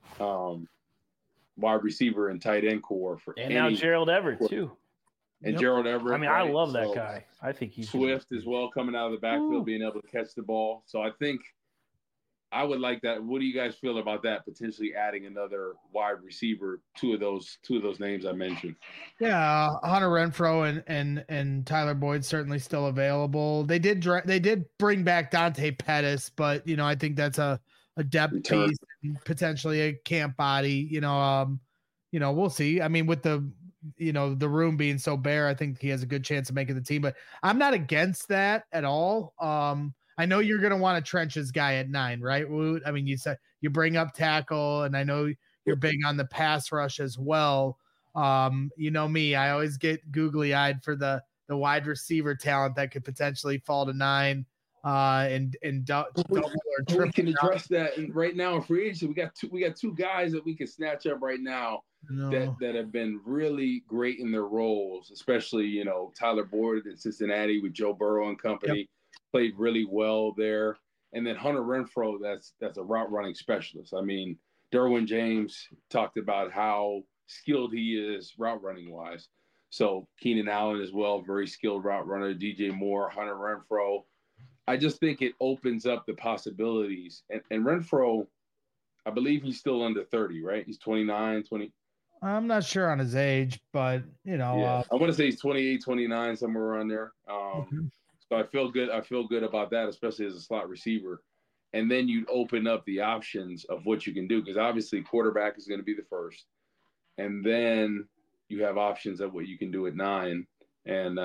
wide receiver and tight end core for now Gerald Everett too. And Gerald Everett. I mean, right? I love that guy. I think he's Swift as well, coming out of the backfield, being able to catch the ball. So I think I would like that. What do you guys feel about that? Potentially adding another wide receiver, two of those names I mentioned. Yeah, Hunter Renfrow and Tyler Boyd certainly still available. They did bring back Dante Pettis, but I think that's a depth piece and potentially a camp body. We'll see. I mean, with the the room being so bare, I think he has a good chance of making the team. But I'm not against that at all. I know you're going to want a trenches guy at 9, right, Woot? I mean, you said you bring up tackle, and I know you're big on the pass rush as well. You know me, I always get googly eyed for the wide receiver talent that could potentially fall to 9 and double or triple. We can address that right now in free agency. We got two guys that we can snatch up right now that have been really great in their roles, especially Tyler Boyd in Cincinnati with Joe Burrow and company. Yep. Played really well there. And then Hunter Renfrow, that's a route running specialist. I mean, Derwin James talked about how skilled he is route running wise. So Keenan Allen as well, very skilled route runner. DJ Moore, Hunter Renfrow. I just think it opens up the possibilities. And Renfrow, I believe he's still under 30, right? He's 29, 20. I'm not sure on his age, but I want to say he's 28, 29, somewhere around there. So I feel good. I feel good about that, especially as a slot receiver. And then you open up the options of what you can do, because obviously quarterback is going to be the first. And then you have options of what you can do at 9. And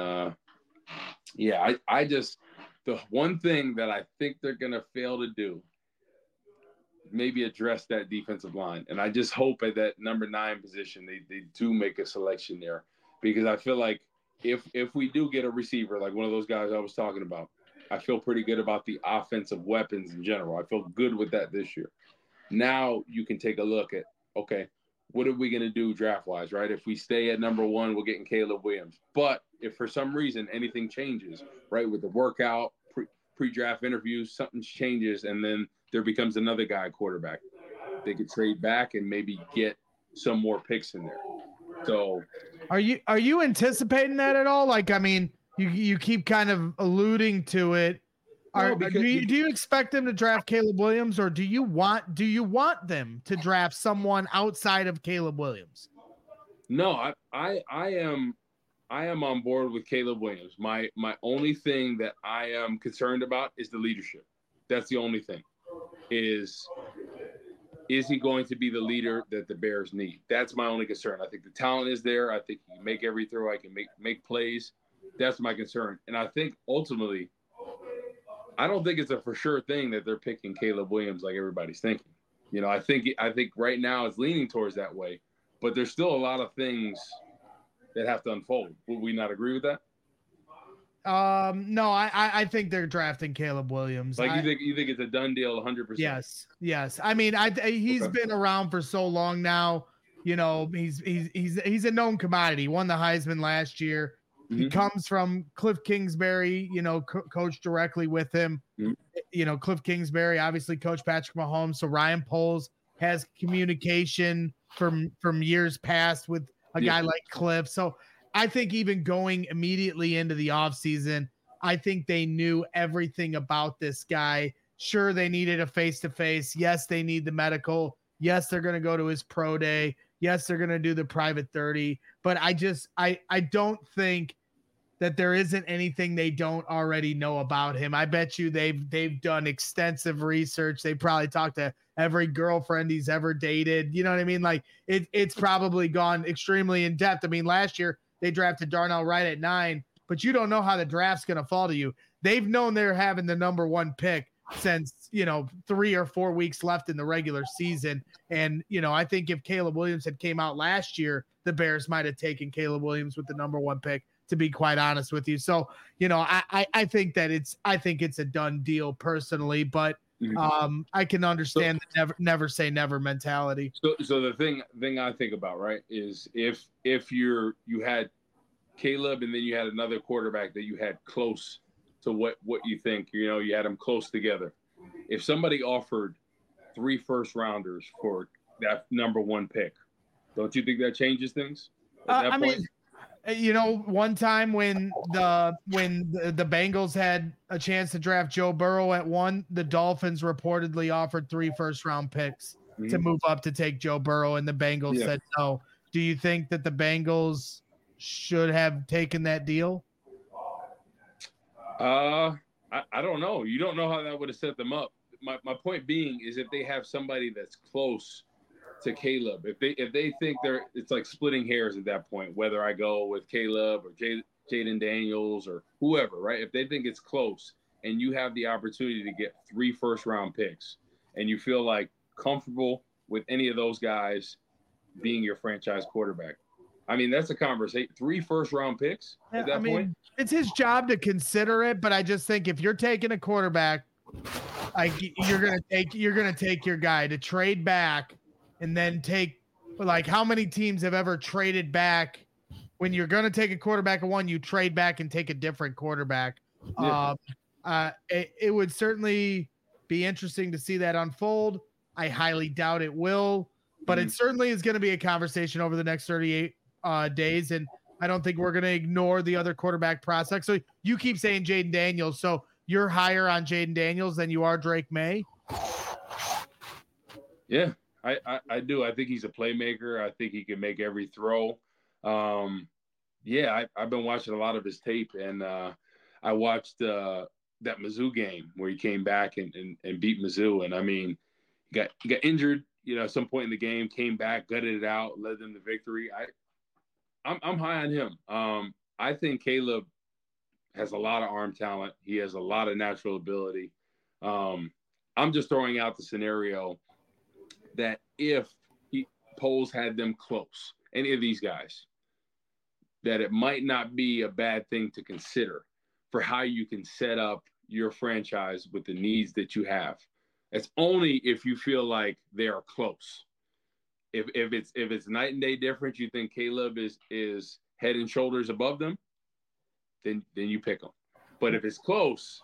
I just, the one thing that I think they're going to fail to do, maybe address that defensive line. And I just hope at that number 9 position, they do make a selection there, because I feel like if we do get a receiver, like one of those guys I was talking about, I feel pretty good about the offensive weapons in general. I feel good with that this year. Now you can take a look at, okay, what are we going to do draft-wise, right? If we stay at number 1, we're getting Caleb Williams. But if for some reason anything changes, right, with the workout, pre-draft interviews, something changes, and then there becomes another guy quarterback, they could trade back and maybe get some more picks in there. So are you anticipating that at all? Like, I mean, you keep kind of alluding to it. Do you expect them to draft Caleb Williams, or do you want them to draft someone outside of Caleb Williams? No, I am on board with Caleb Williams. My only thing that I am concerned about is the leadership. That's the only thing. Is he going to be the leader that the Bears need? That's my only concern. I think the talent is there. I think he can make every throw. I can make plays. That's my concern. And I think ultimately, I don't think it's a for sure thing that they're picking Caleb Williams like everybody's thinking. I think right now it's leaning towards that way, but there's still a lot of things that have to unfold. Would we not agree with that? No, I think they're drafting Caleb Williams. Like you think it's a done deal 100%? Yes. I mean, he's been around for so long now. He's a known commodity. He won the Heisman last year. Mm-hmm. He comes from Cliff Kingsbury, coached directly with him. Mm-hmm. Cliff Kingsbury obviously coached Patrick Mahomes. So Ryan Poles has communication from years past with a guy like Cliff. So I think even going immediately into the offseason, I think they knew everything about this guy. Sure, they needed a face-to-face. Yes, they need the medical. Yes, they're going to go to his pro day. Yes, they're going to do the private 30. But I don't think that there isn't anything they don't already know about him. I bet you they've done extensive research. They probably talked to every girlfriend he's ever dated. You know what I mean? Like it's probably gone extremely in depth. I mean, last year they drafted Darnell Wright at 9, but you don't know how the draft's going to fall to you. They've known they're having the number 1 pick since, 3 or 4 weeks left in the regular season. And, I think if Caleb Williams had came out last year, the Bears might have taken Caleb Williams with the number 1 pick, to be quite honest with you. So, I think that it's a done deal personally, but I can understand the never say never mentality. So the thing I think about, right, is if you had Caleb and then you had another quarterback that you had close to what you think, you had them close together. If somebody offered 3 first-rounders for that number 1 pick, don't you think that changes things at that point? One time when the Bengals had a chance to draft Joe Burrow at 1, the Dolphins reportedly offered 3 first-round picks to move up to take Joe Burrow, and the Bengals said no. Do you think that the Bengals should have taken that deal? I don't know. You don't know how that would have set them up. My point being is if they have somebody that's close to Caleb. If they think it's like splitting hairs at that point, whether I go with Caleb or Jaden Daniels or whoever, right? If they think it's close and you have the opportunity to get 3 first-round picks and you feel like comfortable with any of those guys being your franchise quarterback, I mean, that's a conversation. 3 first-round picks at that point. It's his job to consider it, but I just think if you're taking a quarterback, like you're gonna take your guy to trade back and then take, like, how many teams have ever traded back when you're gonna take a quarterback at one, you trade back and take a different quarterback. Yeah. It would certainly be interesting to see that unfold. I highly doubt it will, but it certainly is going to be a conversation over the next 38 days. And I don't think we're going to ignore the other quarterback prospects. So you keep saying Jaden Daniels. So you're higher on Jaden Daniels than you are Drake May? Yeah, I do. I think he's a playmaker. I think he can make every throw. Yeah, I've been watching a lot of his tape, and I watched that Mizzou game where he came back and beat Mizzou. And I mean, he got injured, at some point in the game, came back, gutted it out, led them to victory. I'm high on him. I think Caleb has a lot of arm talent. He has a lot of natural ability. I'm just throwing out the scenario that if Poles had them close, any of these guys, that it might not be a bad thing to consider for how you can set up your franchise with the needs that you have. It's only if you feel like they are close. If it's night and day difference, you think Caleb is head and shoulders above them, then you pick them. But if it's close,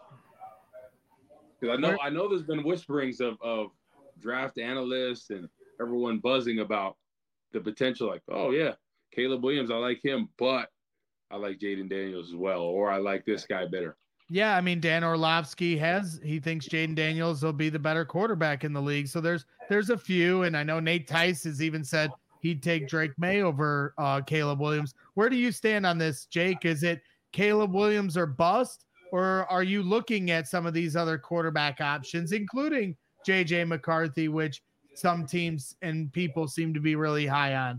because I know there's been whisperings of draft analysts and everyone buzzing about the potential, like, oh yeah, Caleb Williams, I like him, but I like Jaden Daniels as well, or I like this guy better. Yeah, I mean, Dan Orlovsky he thinks Jaden Daniels will be the better quarterback in the league. So there's a few, and I know Nate Tice has even said he'd take Drake May over Caleb Williams. Where do you stand on this, Jake? Is it Caleb Williams or bust, or are you looking at some of these other quarterback options, including J.J. McCarthy, which some teams and people seem to be really high on?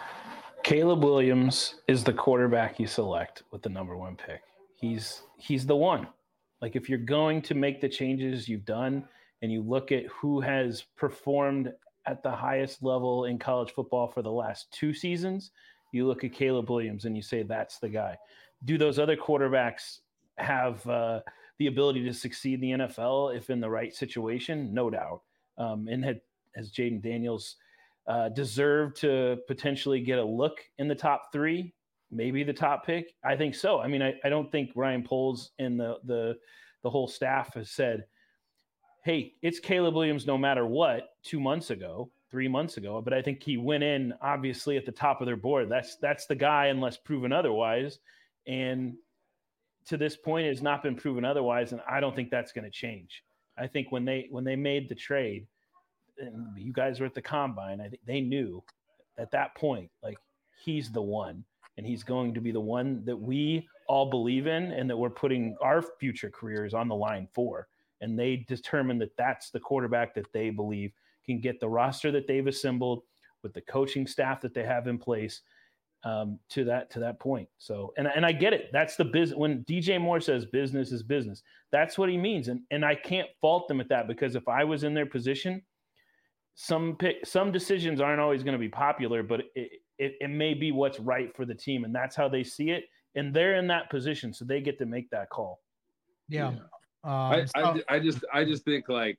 Caleb Williams is the quarterback you select with the number 1 pick. He's the one. Like, if you're going to make the changes you've done and you look at who has performed at the highest level in college football for the last 2 seasons, you look at Caleb Williams and you say, that's the guy. Do those other quarterbacks have the ability to succeed in the NFL if in the right situation? No doubt. And has Jaden Daniels deserved to potentially get a look in the top 3? Maybe the top pick? I think so. I mean, I don't think Ryan Poles and the whole staff has said, hey, it's Caleb Williams no matter what 2 months ago, 3 months ago. But I think he went in obviously at the top of their board. That's the guy unless proven otherwise. And to this point, it has not been proven otherwise. And I don't think that's going to change. I think when they made the trade, and you guys were at the combine, I think they knew at that point, like, he's the one. And he's going to be the one that we all believe in and that we're putting our future careers on the line for. And they determined that that's the quarterback that they believe can get the roster that they've assembled with the coaching staff that they have in place to that point. So, and I get it. That's the business. When DJ Moore says business is business, that's what he means. And I can't fault them at that, because if I was in their position, some decisions aren't always going to be popular, but it may be what's right for the team, and that's how they see it. And they're in that position, so they get to make that call. Yeah. I just think, like,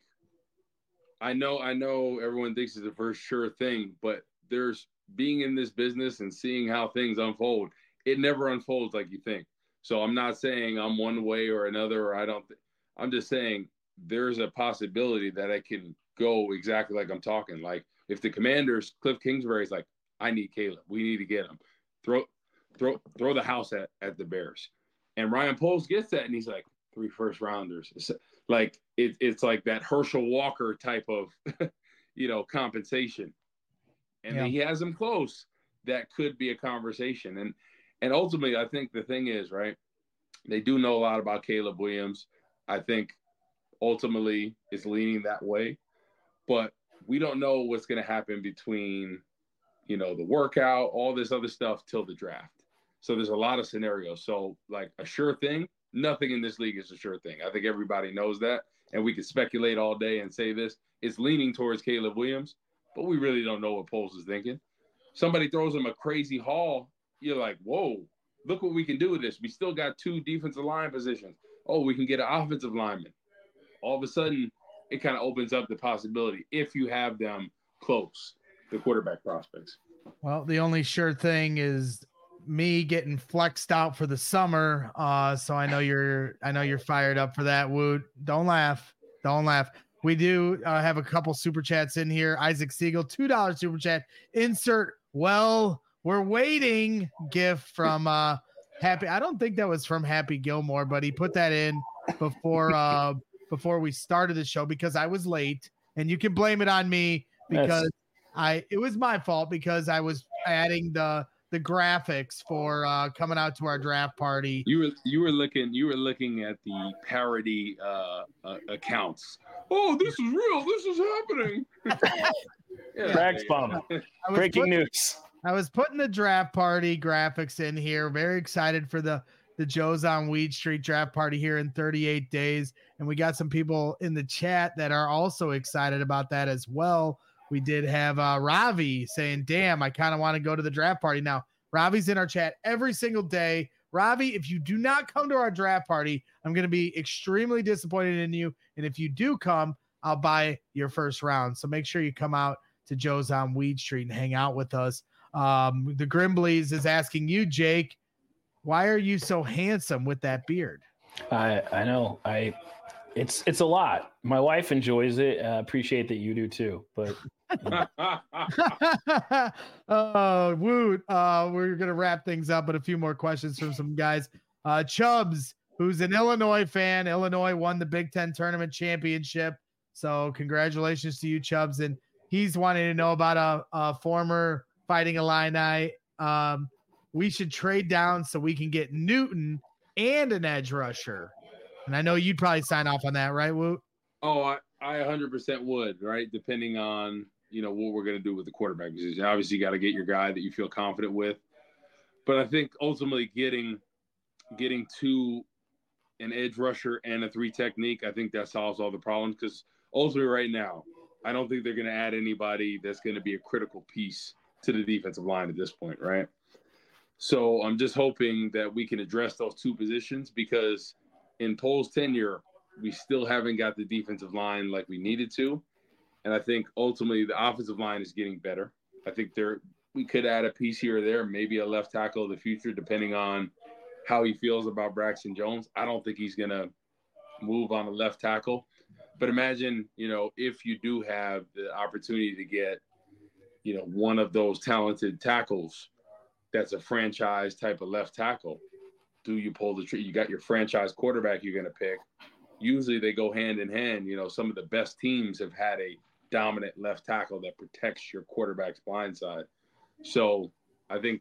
I know everyone thinks it's the first sure thing, but there's being in this business and seeing how things unfold. It never unfolds like you think. So I'm not saying I'm one way or another, or I'm just saying there's a possibility that I can go exactly like I'm talking. Like, if the Commanders, Cliff Kingsbury's like, I need Caleb, we need to get him, throw the house at the Bears, and Ryan Poles gets that, and he's like, 3 first rounders. It's like it's like that Herschel Walker type of compensation, and he has him close. That could be a conversation, and ultimately, I think the thing is, right, they do know a lot about Caleb Williams. I think ultimately it's leaning that way. But we don't know what's going to happen between, the workout, all this other stuff till the draft. So there's a lot of scenarios. So like a sure thing, nothing in this league is a sure thing. I think everybody knows that. And we could speculate all day and say this. It's leaning towards Caleb Williams, but we really don't know what Poles is thinking. Somebody throws him a crazy haul. You're like, whoa, look what we can do with this. We still got 2 defensive line positions. Oh, we can get an offensive lineman. All of a sudden, it kind of opens up the possibility if you have them close, the quarterback prospects. Well, the only sure thing is me getting flexed out for the summer. So I know you're fired up for that. Woot. Don't laugh. We do have a couple super chats in here. Isaac Siegel, $2 super chat. Insert, well, we're waiting gift from Happy. I don't think that was from Happy Gilmore, but he put that in before we started the show because I was late, and you can blame it on me because it was my fault because I was adding the graphics for coming out to our draft party. You were looking at the parody accounts. Oh, this is real. This is happening. Brags bomb. Breaking news. I was putting the draft party graphics in here. Very excited for the Joe's on Weed Street draft party here in 38 days. And we got some people in the chat that are also excited about that as well. We did have Ravi saying, damn, I kind of want to go to the draft party. Now, Ravi's in our chat every single day. Ravi, if you do not come to our draft party, I'm going to be extremely disappointed in you. And if you do come, I'll buy your first round. So make sure you come out to Joe's on Weed Street and hang out with us. The Grimbleys is asking you, Jake, why are you so handsome with that beard? I know. It's a lot. My wife enjoys it. Appreciate that you do too. But Woot. We're gonna wrap things up, but a few more questions from some guys. Chubbs, who's an Illinois fan. Illinois won the Big Ten tournament championship. So congratulations to you, Chubbs. And he's wanting to know about a former Fighting Illini. We should trade down so we can get Newton and an edge rusher. And I know you'd probably sign off on that, right, Woot? Oh, I 100% would, right? Depending on, what we're going to do with the quarterback position. Obviously, you got to get your guy that you feel confident with. But I think ultimately getting to an edge rusher and a 3 technique, I think that solves all the problems because ultimately right now, I don't think they're going to add anybody that's going to be a critical piece to the defensive line at this point, right? So I'm just hoping that we can address those 2 positions because in Poles' tenure, we still haven't got the defensive line like we needed to. And I think ultimately the offensive line is getting better. I think we could add a piece here or there, maybe a left tackle of the future, depending on how he feels about Braxton Jones. I don't think he's going to move on a left tackle. But imagine, if you do have the opportunity to get, one of those talented tackles that's a franchise type of left tackle, do you pull the trigger? You got your franchise quarterback you're going to pick. Usually they go hand in hand. Some of the best teams have had a dominant left tackle that protects your quarterback's blind side. So I think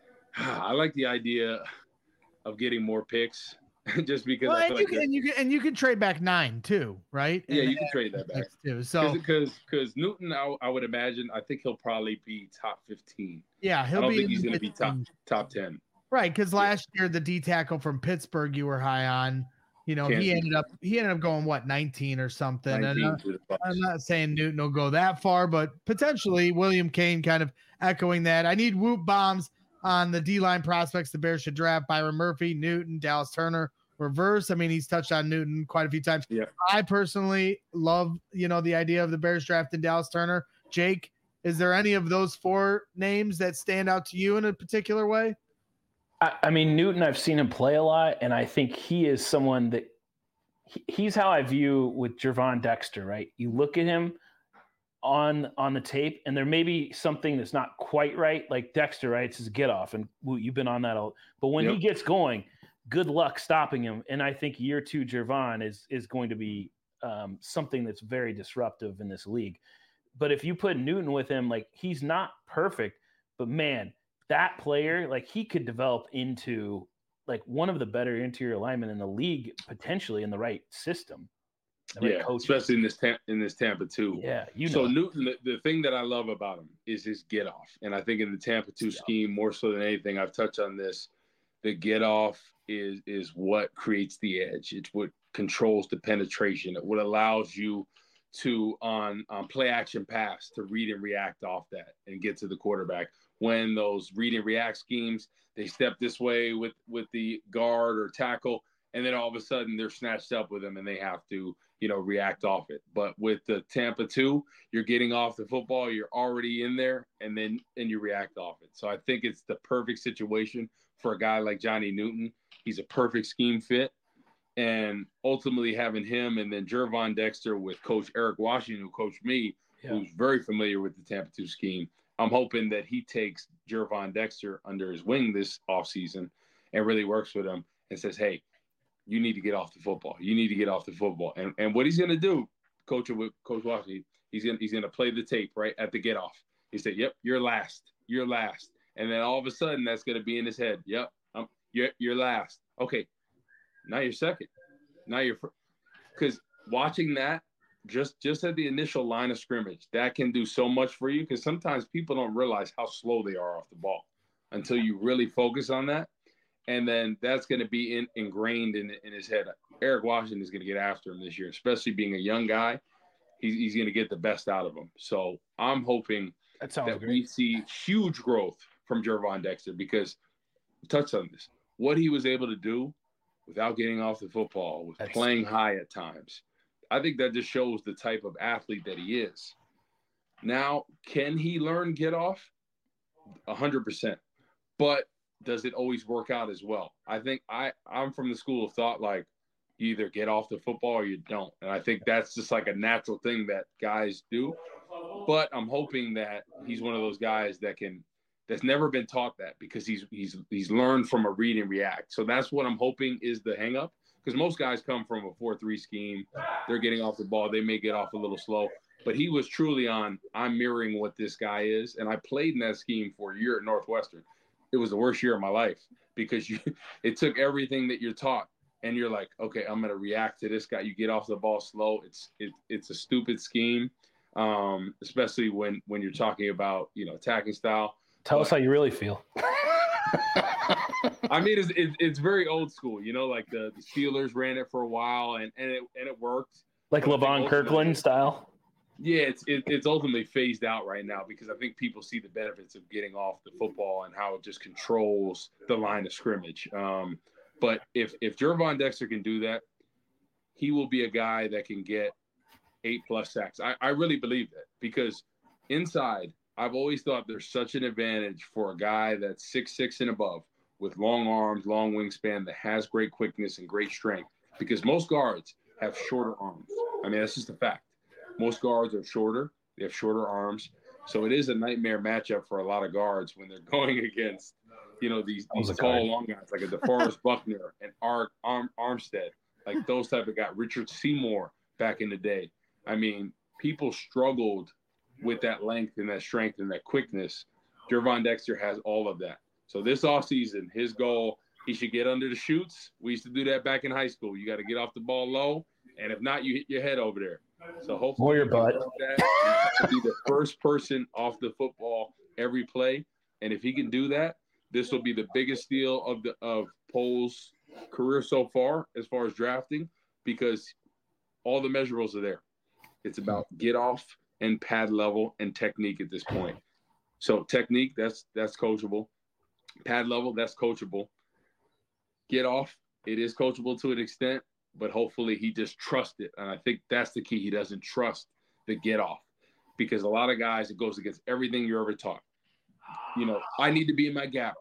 I like the idea of getting more picks just because I feel you can trade back 9 too, right? Yeah, you can trade that back too. So because Newton, I would imagine, I think he'll probably be top 15. Yeah, I don't think he's going to be top 10. Right, because last year the D tackle from Pittsburgh you were high on, he ended up going 19 or something. 19 and I'm not saying Newton will go that far, but potentially William Kane kind of echoing that. I need whoop bombs on the D-line prospects the Bears should draft: Byron Murphy, Newton, Dallas Turner, reverse. I mean, he's touched on Newton quite a few times. Yeah. I personally love, the idea of the Bears drafting Dallas Turner. Jake, is there any of those 4 names that stand out to you in a particular way? I mean, Newton, I've seen him play a lot, and I think he is someone that he's how I view with Gervon Dexter, right? You look at him on the tape, and there may be something that's not quite right, like Dexter, right? It's his get off, and you've been on that all. But when he gets going, good luck stopping him. And I think year 2 Gervon is going to be something that's very disruptive in this league. But if you put Newton with him, like, he's not perfect, but man, that player, like, he could develop into like one of the better interior linemen in the league, potentially in the right system. right Yeah, coaches. especially in this Tampa 2. Yeah, So Newton, the thing that I love about him is his get off, and I think in the Tampa 2 scheme, more so than anything, I've touched on this. The get off is what creates the edge. It's what controls the penetration. It what allows you to on play action pass to read and react off that and get to the quarterback. When those read and react schemes, they step this way with the guard or tackle, and then all of a sudden they're snatched up with them and they have to, react off it. But with the Tampa 2, you're getting off the football, you're already in there, and you react off it. So I think it's the perfect situation for a guy like Johnny Newton. He's a perfect scheme fit. And ultimately having him and then Gervon Dexter with Coach Eric Washington, who coached me, who's very familiar with the Tampa 2 scheme, I'm hoping that he takes Gervon Dexter under his wing this offseason and really works with him and says, hey, you need to get off the football. You need to get off the football. And what he's going to do, Coach Washington, he's going to play the tape right at the get off. He said, yep, you're last. You're last. And then all of a sudden that's going to be in his head. Yep, you're last. Okay, now you're second. Now you're – because watching that, just at the initial line of scrimmage, that can do so much for you because sometimes people don't realize how slow they are off the ball until you really focus on that. And then that's going to be ingrained in his head. Eric Washington is going to get after him this year, especially being a young guy. He's going to get the best out of him. So I'm hoping that we see huge growth from Gervon Dexter because touch on this. What he was able to do without getting off the football, with playing high at times, I think that just shows the type of athlete that he is. Now, can he learn get off? 100%. But does it always work out as well? I think I'm from the school of thought, like, you either get off the football or you don't. And I think that's just like a natural thing that guys do. But I'm hoping that he's one of those guys that's never been taught that because he's learned from a read and react. So that's what I'm hoping is the hang up. Because most guys come from a 4-3 scheme. They're getting off the ball. They may get off a little slow. But he was truly I'm mirroring what this guy is. And I played in that scheme for a year at Northwestern. It was the worst year of my life because it took everything that you're taught. And you're like, okay, I'm going to react to this guy. You get off the ball slow. It's a stupid scheme, especially when you're talking about, attacking style. Tell us how you really feel. I mean, it's very old school, like the Steelers ran it for a while and it worked. Like LeVon Kirkland style? Yeah, it's ultimately phased out right now because I think people see the benefits of getting off the football and how it just controls the line of scrimmage. But if Gervon Dexter can do that, he will be a guy that can get 8+ sacks. I really believe that because inside, I've always thought there's such an advantage for a guy that's 6'6" and above with long arms, long wingspan that has great quickness and great strength because most guards have shorter arms. I mean, that's just a fact. Most guards are shorter. They have shorter arms. So it is a nightmare matchup for a lot of guards when they're going against, these tall, long guys like a DeForest Buckner and Armstead, like those type of guys. Richard Seymour back in the day. I mean, people struggled with that length and that strength and that quickness. Gervon Dexter has all of that. So this offseason, his goal, he should get under the chutes. We used to do that back in high school. You got to get off the ball low, and if not, you hit your head over there. So hopefully or your butt. That be the first person off the football every play. And if he can do that, this will be the biggest steal of Poles' career so far as drafting because all the measurables are there. It's about get off and pad level and technique at this point. So technique, that's coachable. Pad level, that's coachable. Get off, it is coachable to an extent, but hopefully he just trusts it. And I think that's the key. He doesn't trust the get off because a lot of guys, it goes against everything you're ever taught. I need to be in my gap.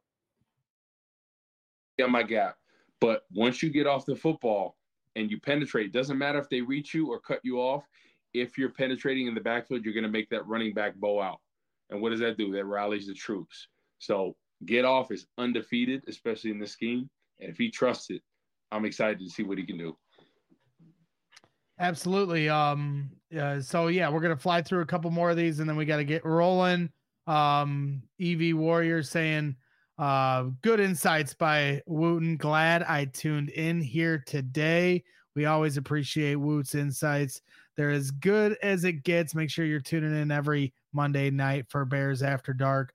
But once you get off the football and you penetrate, it doesn't matter if they reach you or cut you off. If you're penetrating in the backfield, you're going to make that running back bow out. And what does that do? That rallies the troops. So get off is undefeated, especially in this scheme. And if he trusts it, I'm excited to see what he can do. Absolutely. So yeah, we're going to fly through a couple more of these and then we got to get rolling. EV Warrior saying, good insights by Wooten. Glad I tuned in here today. We always appreciate Woot's insights. They're as good as it gets. Make sure you're tuning in every Monday night for Bears After Dark.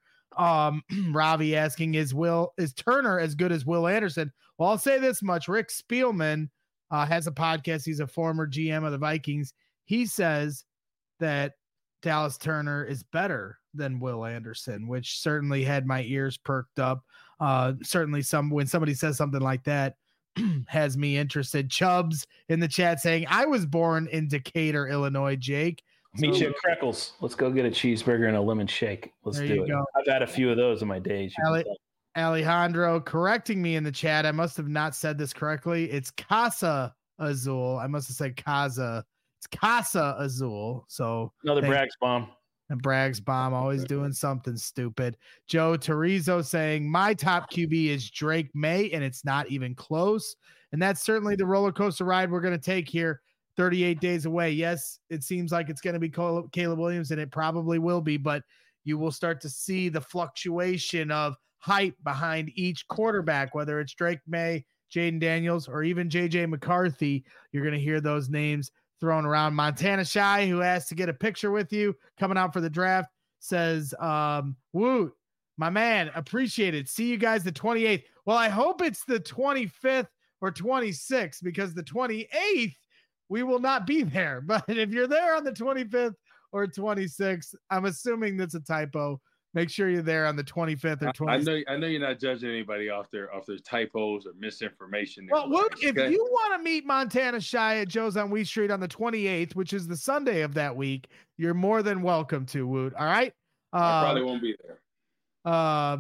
Ravi asking, is Turner as good as Will Anderson? Well, I'll say this much. Rick Spielman has a podcast. He's a former GM of the Vikings. He says that Dallas Turner is better than Will Anderson, which certainly had my ears perked up. Certainly when somebody says something like that, has me interested. Chubbs in the chat saying, I was born in Decatur, Illinois, Jake. Meet you at Freckles. Let's go get a cheeseburger and a lemon shake. Let's do it. Go. I've had a few of those in my days. Alejandro correcting me in the chat. I must have not said this correctly. It's Casa Azul. I must have said Casa. It's Casa Azul. So another Braggs bomb. And Braggs bomb, always doing something stupid. Joe Terizo saying, my top QB is Drake May, and it's not even close. And that's certainly the roller coaster ride we're going to take here 38 days away. Yes, it seems like it's going to be Caleb Williams, and it probably will be, but you will start to see the fluctuation of hype behind each quarterback, whether it's Drake May, Jaden Daniels, or even JJ McCarthy. You're going to hear those names thrown around. Montana Shy, who asked to get a picture with you coming out for the draft, says, Woot, my man, appreciate it. See you guys the 28th. Well, I hope it's the 25th or 26th, because the 28th, we will not be there. But if you're there on the 25th or 26th, I'm assuming that's a typo. Make sure you're there on the 25th or 26th. I know you're not judging anybody off their typos or misinformation. Well, Woot, if you want to meet Montana Shy at Joe's on Wheat Street on the 28th, which is the Sunday of that week, you're more than welcome to, Woot. All right. I probably won't be there.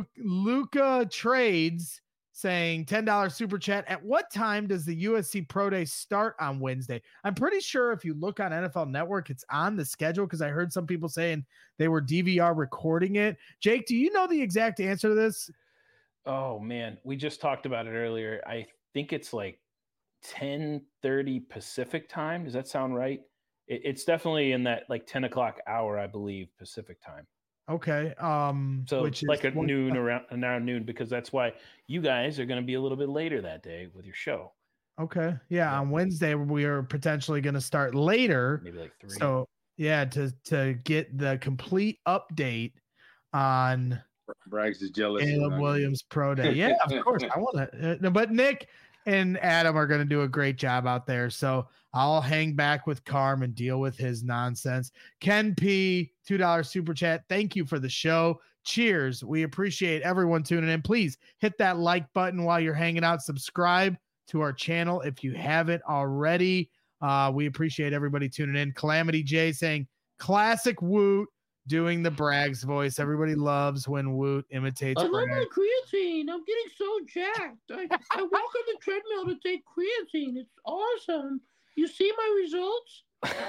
Luca Trades saying $10 super chat. At what time does the USC Pro Day start on Wednesday? I'm pretty sure if you look on NFL Network, it's on the schedule, because I heard some people saying they were DVR recording it. Jake, do you know the exact answer to this? Oh man, we just talked about it earlier. I think it's like 10:30 Pacific time. Does that sound right? It's definitely in that like 10 o'clock hour, I believe, Pacific time. Okay. So which like at noon, around noon, because that's why you guys are going to be a little bit later that day with your show. Okay. Yeah. On Wednesday, we are potentially going to start later. Maybe like 3. So yeah, to get the complete update on Braggs is jealous. Caleb Williams Pro Day. Yeah, of course. I want to, but Nick and Adam are going to do a great job out there. So I'll hang back with Carm and deal with his nonsense. Ken P, $2 super chat. Thank you for the show. Cheers. We appreciate everyone tuning in. Please hit that like button while you're hanging out. Subscribe to our channel if you haven't already. We appreciate everybody tuning in. Calamity J saying, classic Woot, doing the Braggs voice. Everybody loves when Woot imitates I love Braggs. my creatine. I'm getting so jacked. I walk on the treadmill to take creatine. It's awesome. You see my results?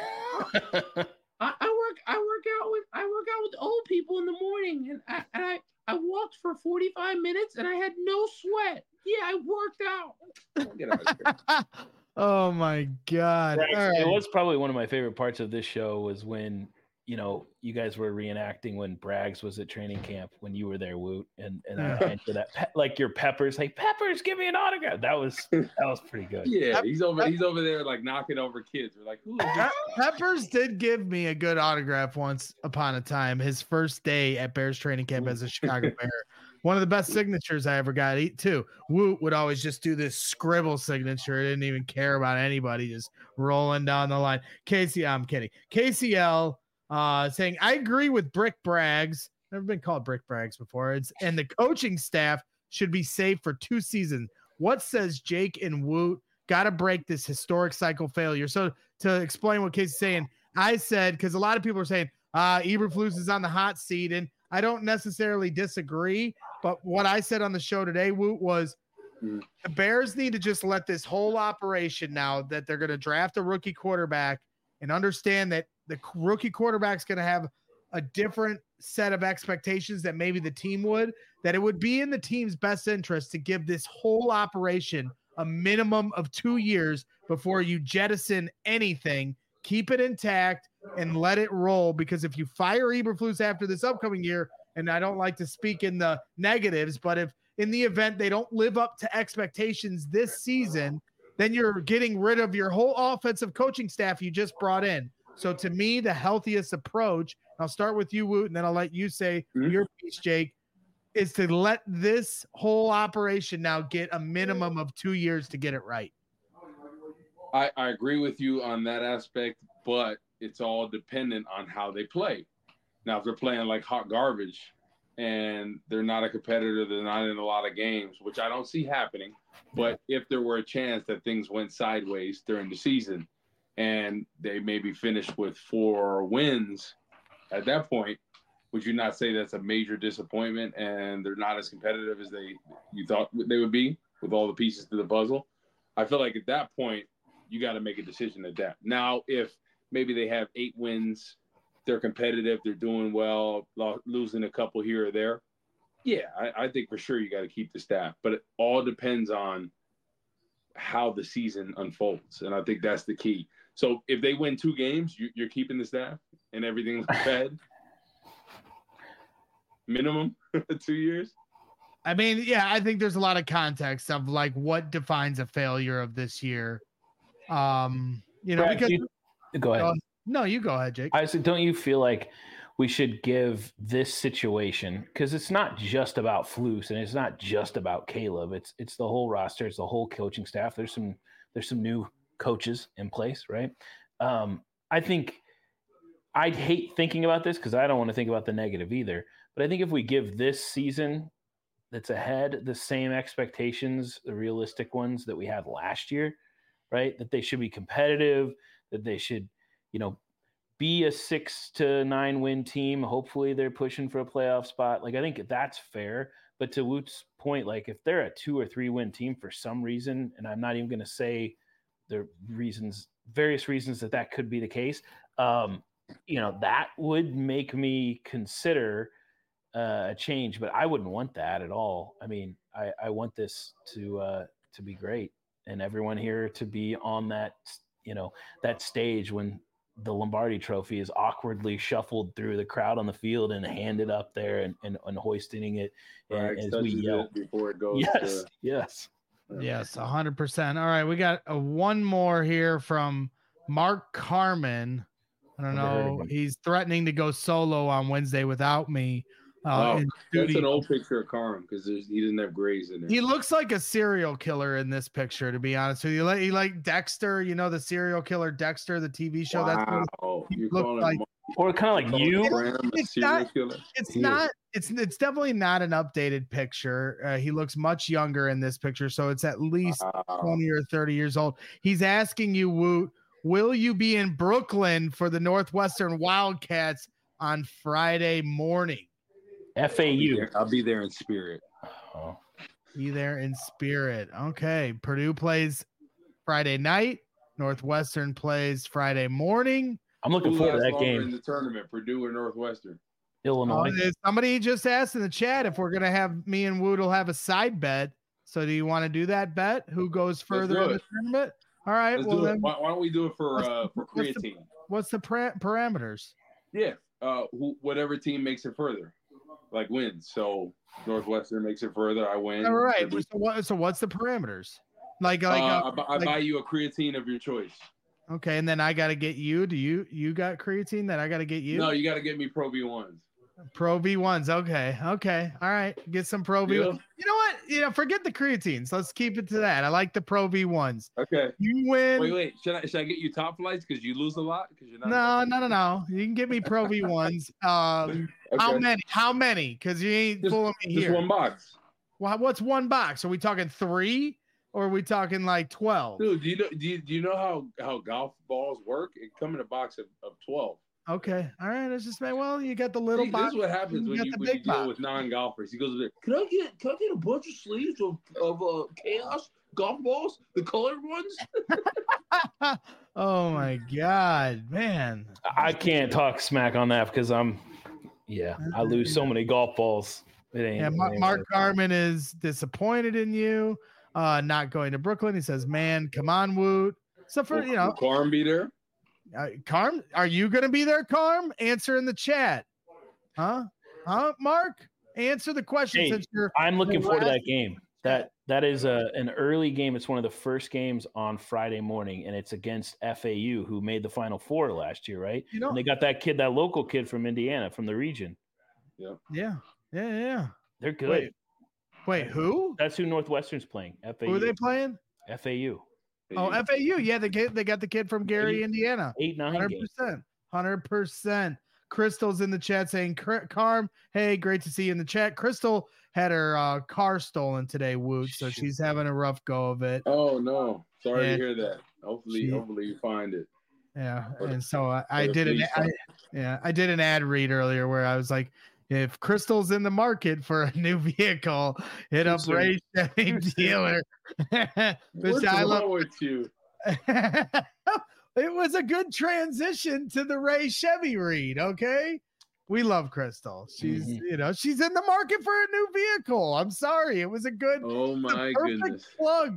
I work out with old people in the morning, and I walked for 45 minutes and I had no sweat. Yeah, I worked out. Get out of here. Oh my God. Right. It was probably one of my favorite parts of this show was when, you know, you guys were reenacting when Braggs was at training camp when you were there, Woot, and I for that like your Peppers, hey Peppers, give me an autograph. That was pretty good. Yeah, he's over there like knocking over kids. We're like, who is this? Peppers did give me a good autograph once upon a time. His first day at Bears training camp as a Chicago Bear. One of the best signatures I ever got too. Woot would always just do this scribble signature. Didn't even care about anybody, just rolling down the line. I'm kidding. KCL saying, I agree with Brick Braggs. Never been called Brick Braggs before. And the coaching staff should be safe for 2 seasons. What says Jake and Woot? Got to break this historic cycle failure. So to explain what Casey's saying, I said, because a lot of people are saying Eberflus is on the hot seat, and I don't necessarily disagree. But what I said on the show today, Woot, was the Bears need to just let this whole operation, now that they're going to draft a rookie quarterback, and understand that the rookie quarterback's going to have a different set of expectations that maybe the team would, that it would be in the team's best interest to give this whole operation a minimum of 2 years before you jettison anything. Keep it intact and let it roll, because if you fire Eberflus after this upcoming year, and I don't like to speak in the negatives, but if in the event they don't live up to expectations this season, then you're getting rid of your whole offensive coaching staff you just brought in. So to me, the healthiest approach, I'll start with you, Woot, and then I'll let you say your piece, Jake, is to let this whole operation now get a minimum of 2 years to get it right. I agree with you on that aspect, but it's all dependent on how they play. Now, if they're playing like hot garbage and they're not a competitor, they're not in a lot of games, which I don't see happening. But if there were a chance that things went sideways during the season and they maybe finished with 4 wins, at that point, would you not say that's a major disappointment and they're not as competitive as you thought they would be with all the pieces to the puzzle? I feel like at that point, you got to make a decision at that. Now, if maybe they have 8 wins, they're competitive, they're doing well, losing a couple here or there, yeah, I think for sure you got to keep the staff. But it all depends on how the season unfolds, and I think that's the key. So if they win 2 games, you're keeping the staff and everything's fed? Minimum 2 years? I mean, yeah, I think there's a lot of context of like what defines a failure of this year. Brad, because go ahead. No, you go ahead, Jake. I said, don't you feel like we should give this situation, because it's not just about Flus and it's not just about Caleb. It's the whole roster. It's the whole coaching staff. There's some new coaches in place, right? I think I'd hate thinking about this because I don't want to think about the negative either. But I think if we give this season that's ahead the same expectations, the realistic ones that we had last year, right? That they should be competitive, that they should, be a 6 to 9 win team. Hopefully they're pushing for a playoff spot. Like, I think that's fair. But to Woot's point, like if they're a 2 or 3 win team for some reason, and I'm not even going to say the various reasons that could be the case, that would make me consider a change, but I wouldn't want that at all. I mean, I want this to be great and everyone here to be on that, that stage when the Lombardi Trophy is awkwardly shuffled through the crowd on the field and handed up there and hoisting it as we yell before it goes. Yes, 100%. All right, we got one more here from Mark Carmen. I don't know. He's threatening to go solo on Wednesday without me. That's an old picture of Carm because he doesn't have grays in there. He looks like a serial killer in this picture, to be honest with you. He like Dexter, the serial killer Dexter, the TV show. Wow. That's what you call like. Or kind of like you. It's definitely not an updated picture. He looks much younger in this picture, so it's at least 20 or 30 years old. He's asking you, Woot, will you be in Brooklyn for the Northwestern Wildcats on Friday morning? FAU. I'll be there in spirit. Oh. Be there in spirit. Okay. Purdue plays Friday night. Northwestern plays Friday morning. I'm looking forward to that game. In the tournament, Purdue or Northwestern? Illinois. Somebody just asked in the chat if we're going to have me and Woot will have a side bet. So do you want to do that bet? Who goes further in the tournament? All right. Then, why don't we do it for creatine? What's the parameters? Yeah. Whatever team makes it further. Like wins. So Northwestern makes it further, I win. All right. So what's the parameters? I buy you a creatine of your choice. Okay, and then I got to get you. Do you got creatine that I got to get you? No, you got to get me Pro V1s. Pro V1s. Okay. All right. Get some Pro V1s. You know what? Forget the creatines. Let's keep it to that. I like the Pro V1s. Okay. You win. Wait. Should I get you top flights because you lose a lot? Because you're not. No. You can get me Pro V1s. Okay. How many? Because you ain't fooling me here. Just one box. Well, what's one box? Are we talking 3 or are we talking like 12? Dude, do you know how golf balls work? It come in a box of 12. Okay. All right. It's just you got the little box. This is what happens when you deal with non-golfers. He goes, can I get a bunch of sleeves of Chaos golf balls, the colored ones? Oh my God, man! I can't talk smack on that because I lose so many golf balls. Mark Carmen is disappointed in you, not going to Brooklyn. He says, "Man, come on, Woot." So will Carm be there? Carm, are you going to be there, Carm? Answer in the chat. Huh? Mark? Answer the question. I'm looking forward to that game. That is an early game. It's one of the first games on Friday morning, and it's against FAU, who made the Final Four last year, right? You know, and they got that local kid from Indiana, from the region. Yeah. They're good. Wait, who? That's who Northwestern's playing. FAU. Who are they playing? FAU. Oh, FAU. Yeah, they got the kid from Gary, Indiana. 8-9 100%. 100%. Crystal's in the chat saying, Carm, hey, great to see you in the chat. Crystal had her car stolen today, Woot, so she's having a rough go of it. Oh, no. Sorry to hear that. Hopefully you find it. Yeah, and so I did an ad read earlier where I was like, if Crystal's in the market for a new vehicle, hit up Ray Chevy dealer. What's wrong with you? It was a good transition to the Ray Chevy read. Okay, we love Crystal. She's she's in the market for a new vehicle. I'm sorry, it was a good. Oh my goodness! Plug.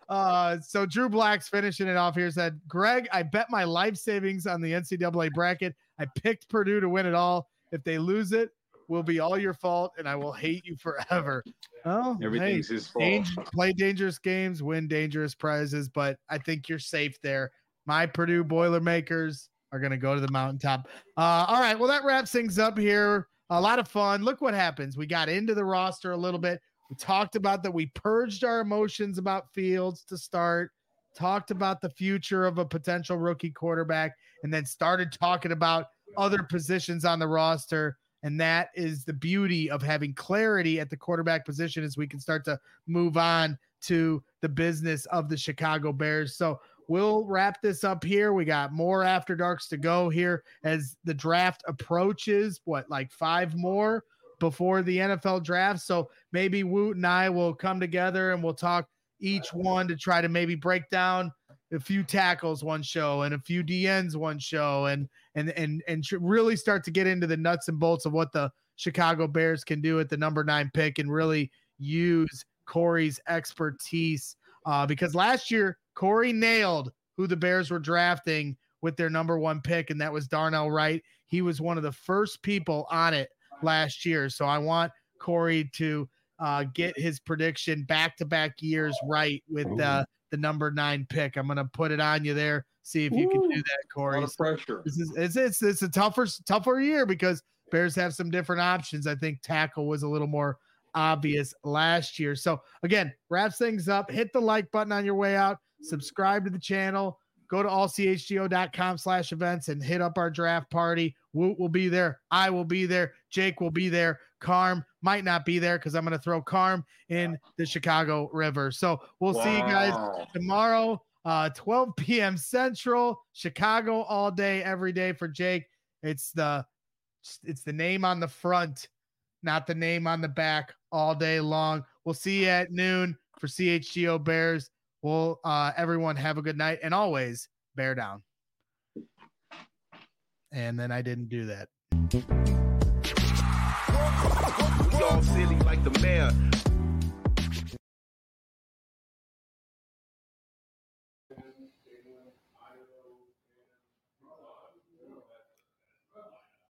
So Drew Black's finishing it off here. Said, Greg, I bet my life savings on the NCAA bracket. I picked Purdue to win it all. If they lose it, will be all your fault, and I will hate you forever. Oh, everything's his fault. Play dangerous games, win dangerous prizes, but I think you're safe there. My Purdue Boilermakers are going to go to the mountaintop. All right, well, that wraps things up here. A lot of fun. Look what happens. We got into the roster a little bit. We talked about that. We purged our emotions about Fields to start, talked about the future of a potential rookie quarterback, and then started talking about other positions on the roster. And that is the beauty of having clarity at the quarterback position as we can start to move on to the business of the Chicago Bears. So we'll wrap this up here. We got more After Darks to go here as the draft approaches. Like 5 more before the NFL draft. So maybe Woot and I will come together and we'll talk each one to try to maybe break down a few tackles one show and a few DNs one show and really start to get into the nuts and bolts of what the Chicago Bears can do at the number 9 pick and really use Corey's expertise because last year Corey nailed who the Bears were drafting with their number 1 pick, and that was Darnell Wright. He was one of the first people on it last year. So I want Corey to get his prediction back-to-back years right with the number 9 pick. I'm going to put it on you there. See if you can do that, Corey. A lot of pressure. It's a tougher year because Bears have some different options. I think tackle was a little more obvious last year. So again, wraps things up. Hit the like button on your way out. Subscribe to the channel. Go to allchgo.com/events and hit up our draft party. Woot will be there. I will be there. Jake will be there. Carm might not be there because I'm going to throw Carm in the Chicago River. So we'll see you guys tomorrow, 12 p.m. Central. Chicago all day, every day for Jake. It's the name on the front, not the name on the back all day long. We'll see you at noon for CHGO Bears. Well, everyone have a good night and always bear down. And then I didn't do that. We all silly like the mayor.